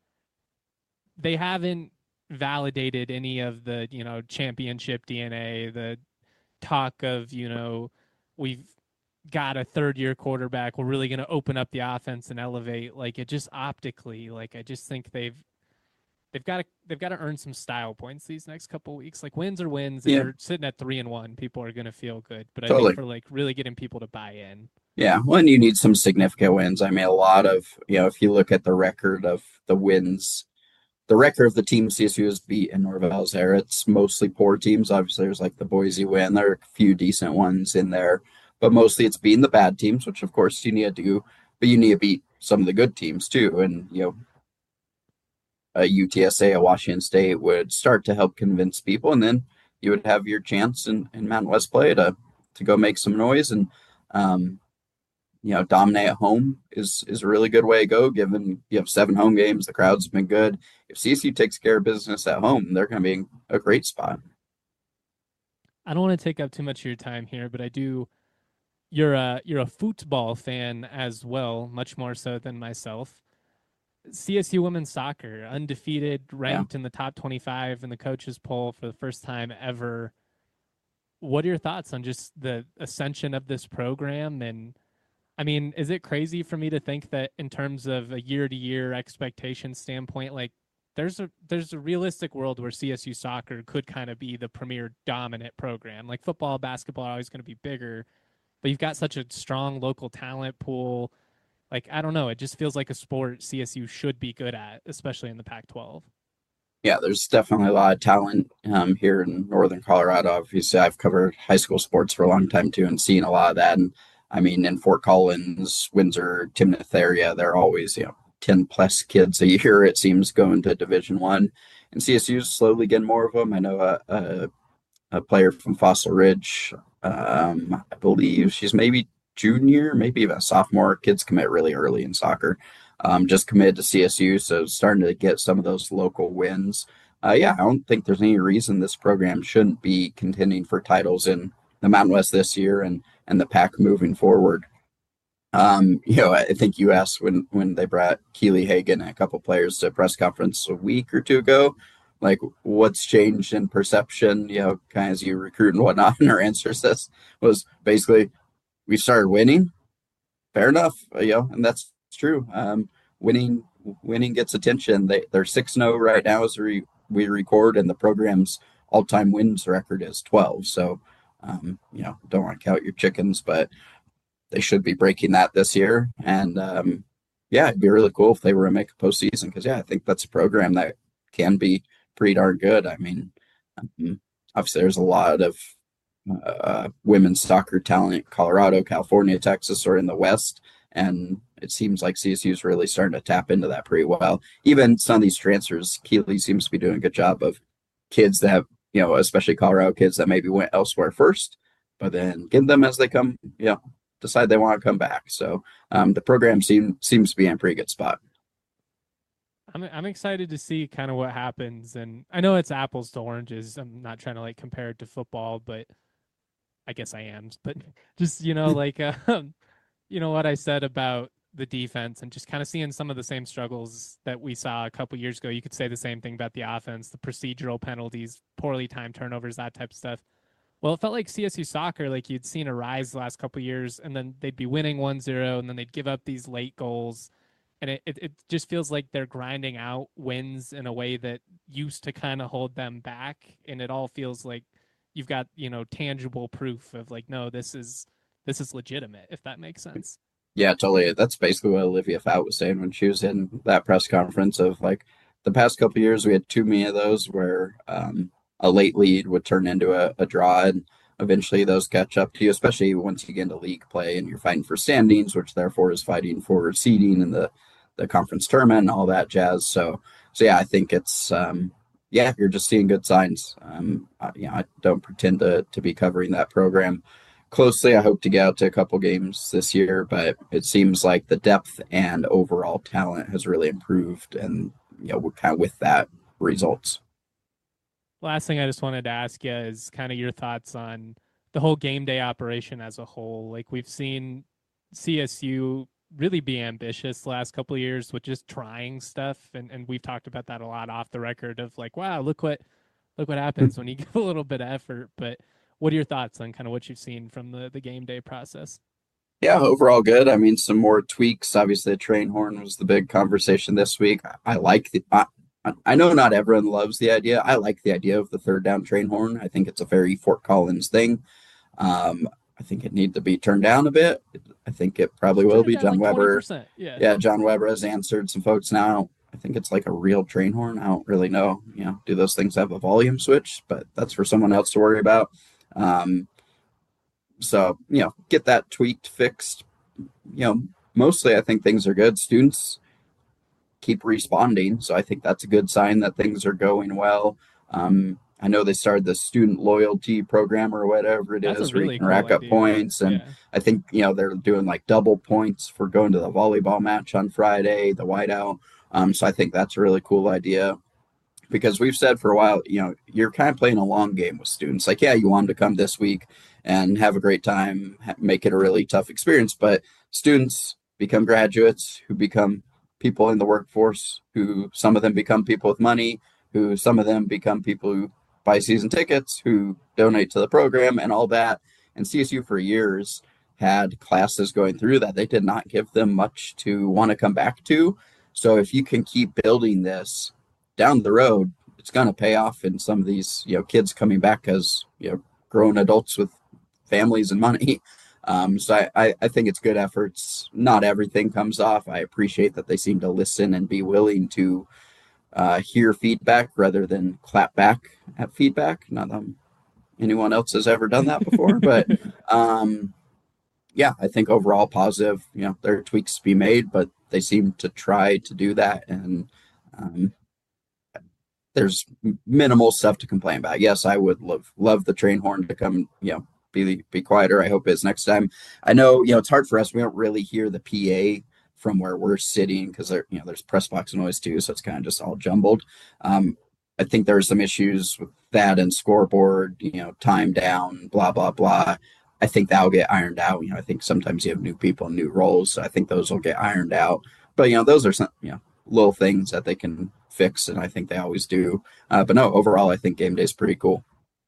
They haven't validated any of the championship DNA. The talk of we've got a third-year quarterback. We're really going to open up the offense and elevate. Like it just optically, like I just think they've got to earn some style points these next couple of weeks. Like wins are wins. If you're sitting at 3-1, people are going to feel good. But I think for like really getting people to buy in. Yeah, well, and you need some significant wins. I mean, a lot of if you look at the record of the wins, the record of the team CSU has beat in Norvell's era, it's mostly poor teams. Obviously, there's like the Boise win. There are a few decent ones in there, but mostly it's beating the bad teams, which of course you need to do. But you need to beat some of the good teams too, and a UTSA, a Washington State would start to help convince people, and then you would have your chance in Mountain West play to go make some noise and dominate at home is a really good way to go. Given you have 7 home games, the crowd's been good. If CSU takes care of business at home, they're going to be in a great spot. I don't want to take up too much of your time here, but I do. You're a football fan as well, much more so than myself. CSU women's soccer, undefeated, ranked in the top 25 in the coaches poll for the first time ever. What are your thoughts on just the ascension of this program? And I mean, is it crazy for me to think that in terms of a year-to-year expectation standpoint, like there's a realistic world where CSU soccer could kind of be the premier dominant program? Like football, basketball are always going to be bigger, but you've got such a strong local talent pool. Like, I don't know. It just feels like a sport CSU should be good at, especially in the Pac-12. Yeah, there's definitely a lot of talent here in Northern Colorado. Obviously, I've covered high school sports for a long time, too, and seen a lot of that. And, I mean, in Fort Collins, Windsor, Timnath area, there are always, 10-plus kids a year, it seems, going to Division I. And CSU's slowly getting more of them. I know a player from Fossil Ridge, I believe she's maybe junior, maybe even a sophomore. Kids commit really early in soccer. Just committed to CSU, so starting to get some of those local wins. I don't think there's any reason this program shouldn't be contending for titles in the Mountain West this year and the Pac moving forward. I think you asked when they brought Keely Hagan and a couple players to a press conference a week or two ago, like what's changed in perception, kind of as you recruit and whatnot. And her answer says was basically, we started winning. Fair enough, and that's true. Winning gets attention. They're 6-0 right now as we record, and the program's all-time wins record is 12. So, don't want to count your chickens, but they should be breaking that this year. And it'd be really cool if they were to make a postseason, because I think that's a program that can be pretty darn good. I mean, obviously there's a lot of women's soccer talent. Colorado, California, Texas are in the West, and it seems like CSU is really starting to tap into that pretty well. Even some of these transfers, Keeley seems to be doing a good job of kids that have, especially Colorado kids that maybe went elsewhere first, but then get them as they come, decide they want to come back. So the program seems to be in a pretty good spot. I'm excited to see kind of what happens, and I know it's apples to oranges. I'm not trying to like compare it to football, but I guess I am. But just like what I said about the defense, and just kind of seeing some of the same struggles that we saw a couple years ago. You could say the same thing about the offense, the procedural penalties, poorly timed turnovers, that type of stuff. Well, it felt like CSU soccer, like you'd seen a rise the last couple of years, and then they'd be winning 1-0, and then they'd give up these late goals. And it just feels like they're grinding out wins in a way that used to kind of hold them back. And it all feels like you've got, tangible proof of like, no, this is legitimate, if that makes sense. Yeah, totally. That's basically what Olivia Fout was saying when she was in that press conference of like the past couple of years, we had too many of those where a late lead would turn into a draw, and eventually those catch up to you, especially once you get into league play and you're fighting for standings, which therefore is fighting for seeding in the conference tournament and all that jazz. So I think it's, you're just seeing good signs. I don't pretend to be covering that program closely. I hope to get out to a couple games this year, but it seems like the depth and overall talent has really improved, and we're kind of with that results. Last thing I just wanted to ask you is kind of your thoughts on the whole game day operation as a whole. Like we've seen CSU really be ambitious the last couple of years with just trying stuff, and we've talked about that a lot off the record of like, wow, look what happens when you give a little bit of effort. But what are your thoughts on kind of what you've seen from the game day process? Yeah, overall good. I mean, some more tweaks. Obviously, the train horn was the big conversation this week. I like I know not everyone loves the idea. I like the idea of the third down train horn. I think it's a very Fort Collins thing. I think it needs to be turned down a bit. I think it probably will be. John like Weber. Yeah, John Weber has answered some folks now. I think it's like a real train horn. I don't really know. Do those things have a volume switch? But that's for someone else to worry about. So get that tweaked, fixed. Mostly I think things are good. Students keep responding, so I think that's a good sign that things are going well. I know they started the student loyalty program or whatever it is, where you can rack up points. And I think, they're doing like double points for going to the volleyball match on Friday, the whiteout. So I think that's a really cool idea, because we've said for a while, you're kind of playing a long game with students. Like, you want them to come this week and have a great time, make it a really tough experience. But students become graduates who become people in the workforce, who some of them become people with money, who some of them become people who buy season tickets, who donate to the program and all that. And CSU for years had classes going through that. They did not give them much to want to come back to. So if you can keep building this down the road, it's going to pay off in some of these, kids coming back as, grown adults with families and money. So I think it's good efforts. Not everything comes off. I appreciate that they seem to listen and be willing to hear feedback rather than clap back at feedback. Not that anyone else has ever done that before, but I think overall positive. There are tweaks to be made, but they seem to try to do that, and there's minimal stuff to complain about. Yes, I would love the train horn to come, be quieter. I hope is next time. I know, it's hard for us. We don't really hear the PA from where we're sitting, because there's press box noise too, so it's kind of just all jumbled. I think there are some issues with that and scoreboard, time down, blah blah blah. I think that'll get ironed out. I think sometimes you have new people and new roles, so I think those will get ironed out. But those are some little things that they can fixed, and I think they always do. But no, overall, I think game day is pretty cool.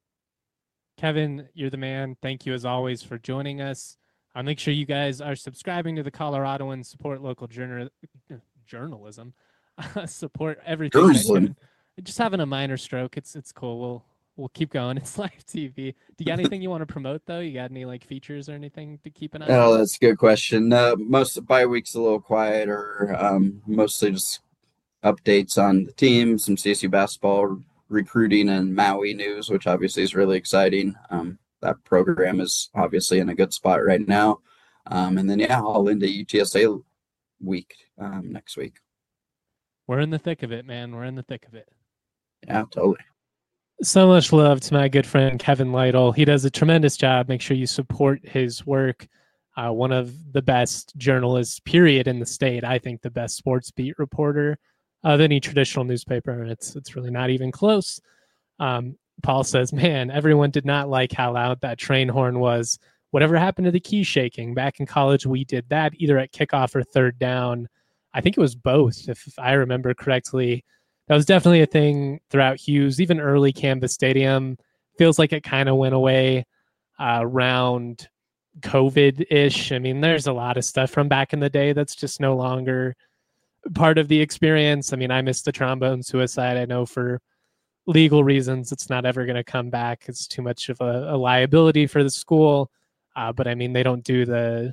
Kevin, you're the man. Thank you as always for joining us. Make sure you guys are subscribing to the Coloradoan, support local journalism, support everything. Just having a minor stroke. It's cool. We'll keep going. It's live TV. Do you got anything you want to promote though? You got any like features or anything to keep an eye on? Oh, that's a good question. Most bye week's a little quieter. Mostly just updates on the team, some CSU basketball recruiting and Maui news, which obviously is really exciting. That program is obviously in a good spot right now. And then, I'll into UTSA week next week. We're in the thick of it, man. We're in the thick of it. Yeah, totally. So much love to my good friend, Kevin Lytle. He does a tremendous job. Make sure you support his work. One of the best journalists, period, in the state. I think the best sports beat reporter of any traditional newspaper. It's really not even close. Paul says, man, everyone did not like how loud that train horn was. Whatever happened to the key shaking? Back in college, we did that either at kickoff or third down. I think it was both, if I remember correctly. That was definitely a thing throughout Hughes, even early Canvas Stadium. Feels like it kind of went away around COVID-ish. I mean, there's a lot of stuff from back in the day that's just no longer part of the experience. I mean, I missed the trombone suicide. I know for legal reasons, it's not ever going to come back. It's too much of a liability for the school. But I memean, they don't do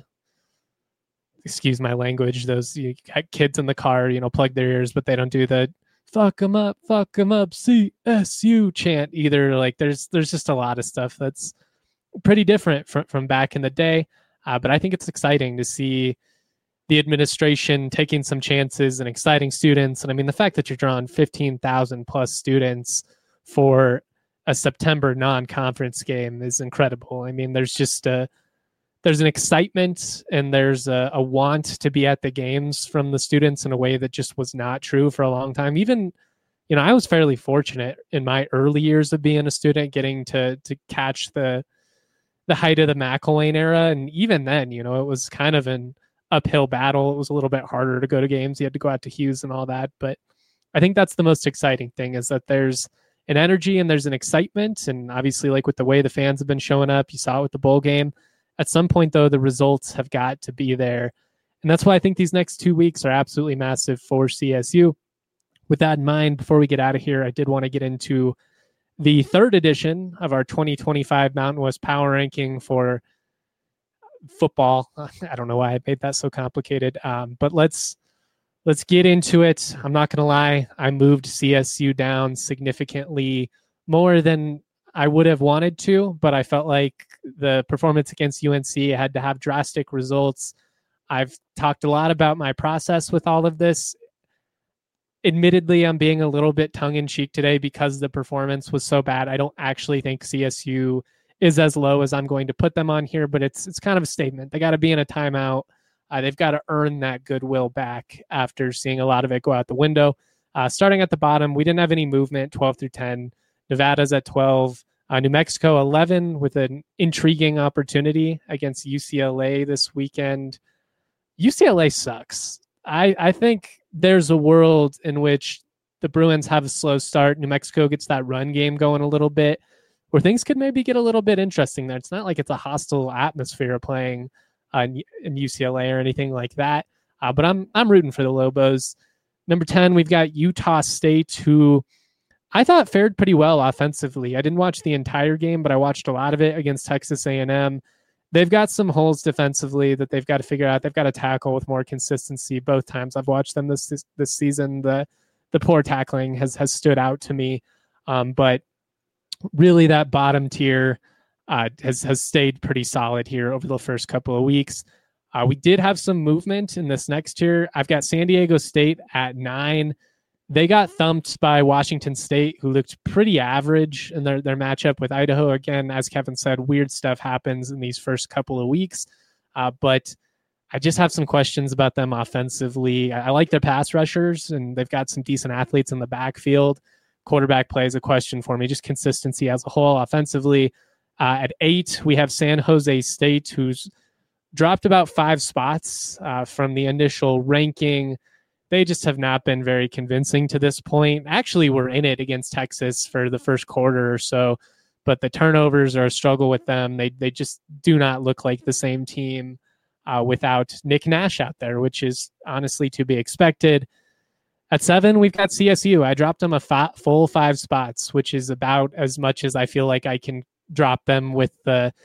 excuse my language, those kids in the car, plug their ears, but they don't do the fuck them up, CSU chant either. Like there's just a lot of stuff that's pretty different from back in the day. But I think it's exciting to see the administration taking some chances and exciting students. And I mean, the fact that you're drawing 15,000 plus students for a September non-conference game is incredible. I mean, there's just there's an excitement and there's a want to be at the games from the students in a way that just was not true for a long time. Even, I was fairly fortunate in my early years of being a student, getting to catch the height of the McElwain era. And even then, it was kind of an uphill battle. It was a little bit harder to go to games. You had to go out to Hughes and all that. But I think that's the most exciting thing, is that there's an energy and there's an excitement. And obviously, like with the way the fans have been showing up, you saw it with the bowl game. At some point, though, the results have got to be there. And that's why I think these next 2 weeks are absolutely massive for CSU. With that in mind, before we get out of here, I did want to get into the third edition of our 2025 Mountain West Power Ranking for football. I don't know why I made that so complicated, but let's get into it. I'm not going to lie. I moved CSU down significantly more than I would have wanted to, but I felt like the performance against UNC had to have drastic results. I've talked a lot about my process with all of this. Admittedly, I'm being a little bit tongue-in-cheek today because the performance was so bad. I don't actually think CSU is as low as I'm going to put them on here, but it's kind of a statement. They got to be in a timeout. They've got to earn that goodwill back after seeing a lot of it go out the window. Starting at the bottom, we didn't have any movement, 12 through 10. Nevada's at 12. New Mexico, 11, with an intriguing opportunity against UCLA this weekend. UCLA sucks. I think there's a world in which the Bruins have a slow start. New Mexico gets that run game going a little bit, where things could maybe get a little bit interesting there. It's not like it's a hostile atmosphere playing in UCLA or anything like that. But I'm rooting for the Lobos. Number 10, we've got Utah State, who I thought fared pretty well offensively. I didn't watch the entire game, but I watched a lot of it against Texas A&M. They've got some holes defensively that they've got to figure out. They've got to tackle with more consistency. Both times I've watched them this season, the poor tackling has stood out to me. But really, that bottom tier has stayed pretty solid here over the first couple of weeks. We did have some movement in this next tier. I've got San Diego State at 9. They got thumped by Washington State, who looked pretty average in their matchup with Idaho. Again, as Kevin said, weird stuff happens in these first couple of weeks. But I just have some questions about them offensively. I like their pass rushers, and they've got some decent athletes in the backfield. Quarterback play is a question for me, just consistency as a whole offensively. At 8, we have San Jose State, who's dropped about 5 spots from the initial ranking. they just have not been very convincing to this point. Actually, we're in it against Texas for the first quarter or so, but the turnovers are a struggle with them. They just do not look like the same team without Nick Nash out there, which is honestly to be expected. At 7, we've got CSU. I dropped them a full 5 spots, which is about as much as I feel like I can drop them with the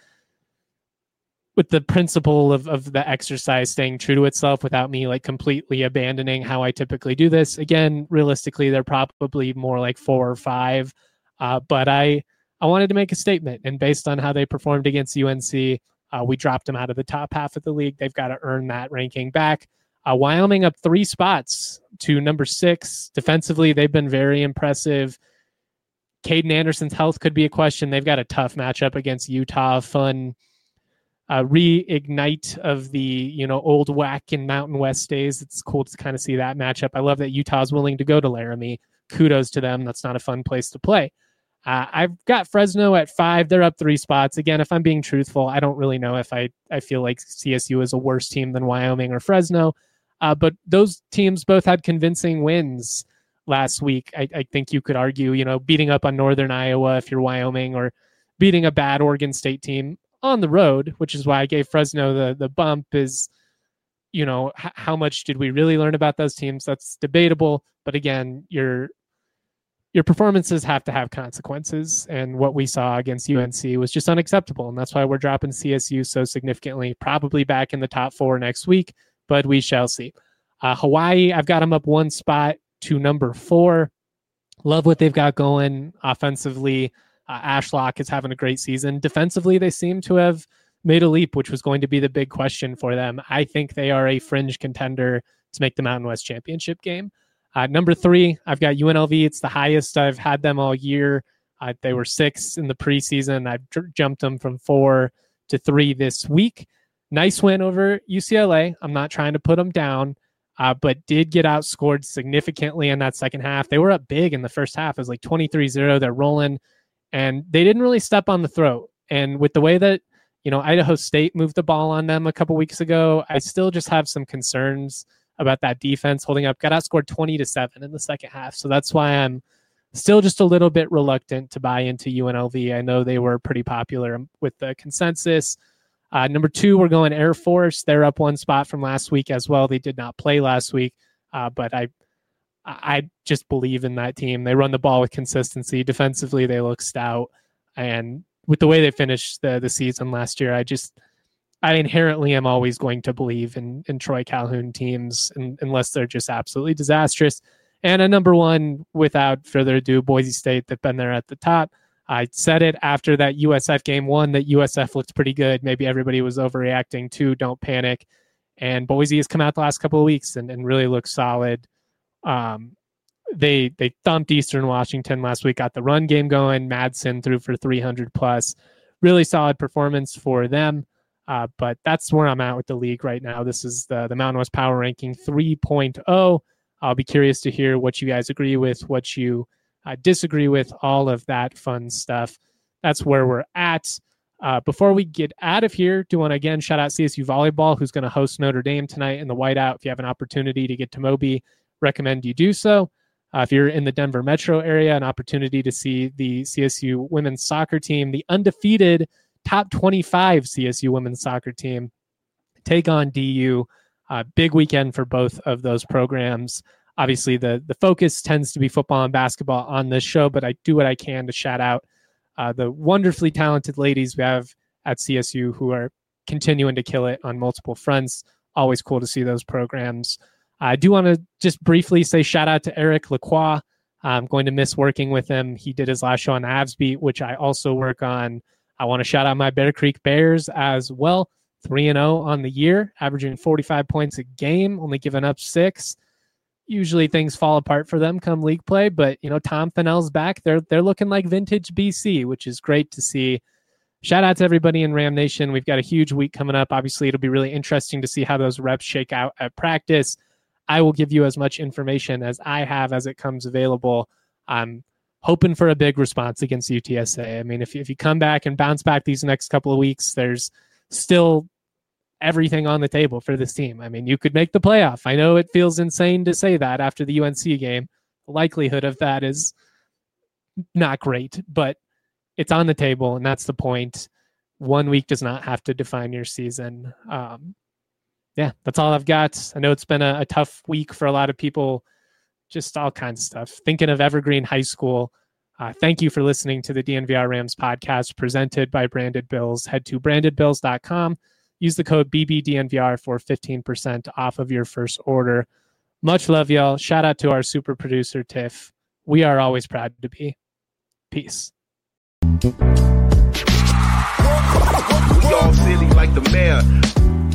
principle of the exercise staying true to itself without me like completely abandoning how I typically do this. Again, realistically, they're probably more like 4 or 5. But I wanted to make a statement, and based on how they performed against UNC, we dropped them out of the top half of the league. They've got to earn that ranking back. Wyoming up 3 spots to number 6. Defensively, they've been very impressive. Caden Anderson's health could be a question. They've got a tough matchup against Utah. Fun reignite of the old WAC and Mountain West days. It's cool to kind of see that matchup. I love that Utah's willing to go to Laramie. Kudos to them. That's not a fun place to play. I've got Fresno at 5. They're up 3 spots. Again, if I'm being truthful, I don't really know if I feel like CSU is a worse team than Wyoming or Fresno. But those teams both had convincing wins last week. I think you could argue, beating up on Northern Iowa if you're Wyoming, or beating a bad Oregon State team on the road, which is why I gave Fresno the bump, is, how much did we really learn about those teams? That's debatable. But again, your performances have to have consequences. And what we saw against UNC was just unacceptable. And that's why we're dropping CSU so significantly, probably back in the top 4 next week, but we shall see. Hawaii, I've got them up 1 spot to number 4. Love what they've got going offensively. Ashlock is having a great season. Defensively, they seem to have made a leap, which was going to be the big question for them. I think they are a fringe contender to make the Mountain West Championship game. Number 3, I've got UNLV. It's the highest I've had them all year. They were 6 in the preseason. I've jumped them from 4 to 3 this week. Nice win over UCLA. I'm not trying to put them down, but did get outscored significantly in that second half. They were up big in the first half. It was like 23-0. They're rolling, and they didn't really step on the throat. And with the way that, Idaho State moved the ball on them a couple weeks ago, I still just have some concerns about that defense holding up. Got outscored 20-7 in the second half. So that's why I'm still just a little bit reluctant to buy into UNLV. I know they were pretty popular with the consensus. Number 2, we're going Air Force. They're up 1 spot from last week as well. They did not play last week, but I just believe in that team. They run the ball with consistency. Defensively, they look stout. And with the way they finished the season last year, I inherently am always going to believe in Troy Calhoun teams unless they're just absolutely disastrous. And a number 1, without further ado, Boise State. They've been there at the top. I said it after that USF game 1 that USF looked pretty good. Maybe everybody was overreacting too. Don't panic. And Boise has come out the last couple of weeks and really looks solid. They thumped Eastern Washington last week, got the run game going. Madsen threw for 300 plus. Really solid performance for them. But that's where I'm at with the league right now. This is the Mountain West Power Ranking 3.0. I'll be curious to hear what you guys agree with, what you disagree with, all of that fun stuff. That's where we're at. Before we get out of here, do want to again shout out CSU Volleyball, who's going to host Notre Dame tonight in the Whiteout. If you have an opportunity to get to Moby, recommend you do so. If you're in the Denver metro area, an opportunity to see the CSU women's soccer team, the undefeated top 25 CSU women's soccer team, take on DU. Big weekend for both of those programs. Obviously, the focus tends to be football and basketball on this show, but I do what I can to shout out the wonderfully talented ladies we have at CSU who are continuing to kill it on multiple fronts. Always cool to see those programs. I do want to just briefly say shout out to Eric Lacroix. I'm going to miss working with him. He did his last show on the Avs Beat, which I also work on. I want to shout out my Bear Creek Bears as well. 3-0 on the year, averaging 45 points a game, only giving up 6. Usually things fall apart for them come league play, but Tom Fennell's back. They're looking like vintage BC, which is great to see. Shout out to everybody in Ram Nation. We've got a huge week coming up. Obviously, it'll be really interesting to see how those reps shake out at practice. I will give you as much information as I have as it comes available. I'm hoping for a big response against UTSA. I mean, if you come back and bounce back these next couple of weeks, there's still everything on the table for this team. I mean, you could make the playoff. I know it feels insane to say that after the UNC game. The likelihood of that is not great, but it's on the table, and that's the point. 1 week does not have to define your season. Yeah, that's all I've got. I know it's been a tough week for a lot of people, just all kinds of stuff. Thinking of Evergreen High School. Thank you for listening to the DNVR Rams podcast presented by Branded Bills. Head to brandedbills.com. Use the code BBDNVR for 15% off of your first order. Much love, y'all. Shout out to our super producer, Tiff. We are always proud to be. Peace. We all silly like the mayor.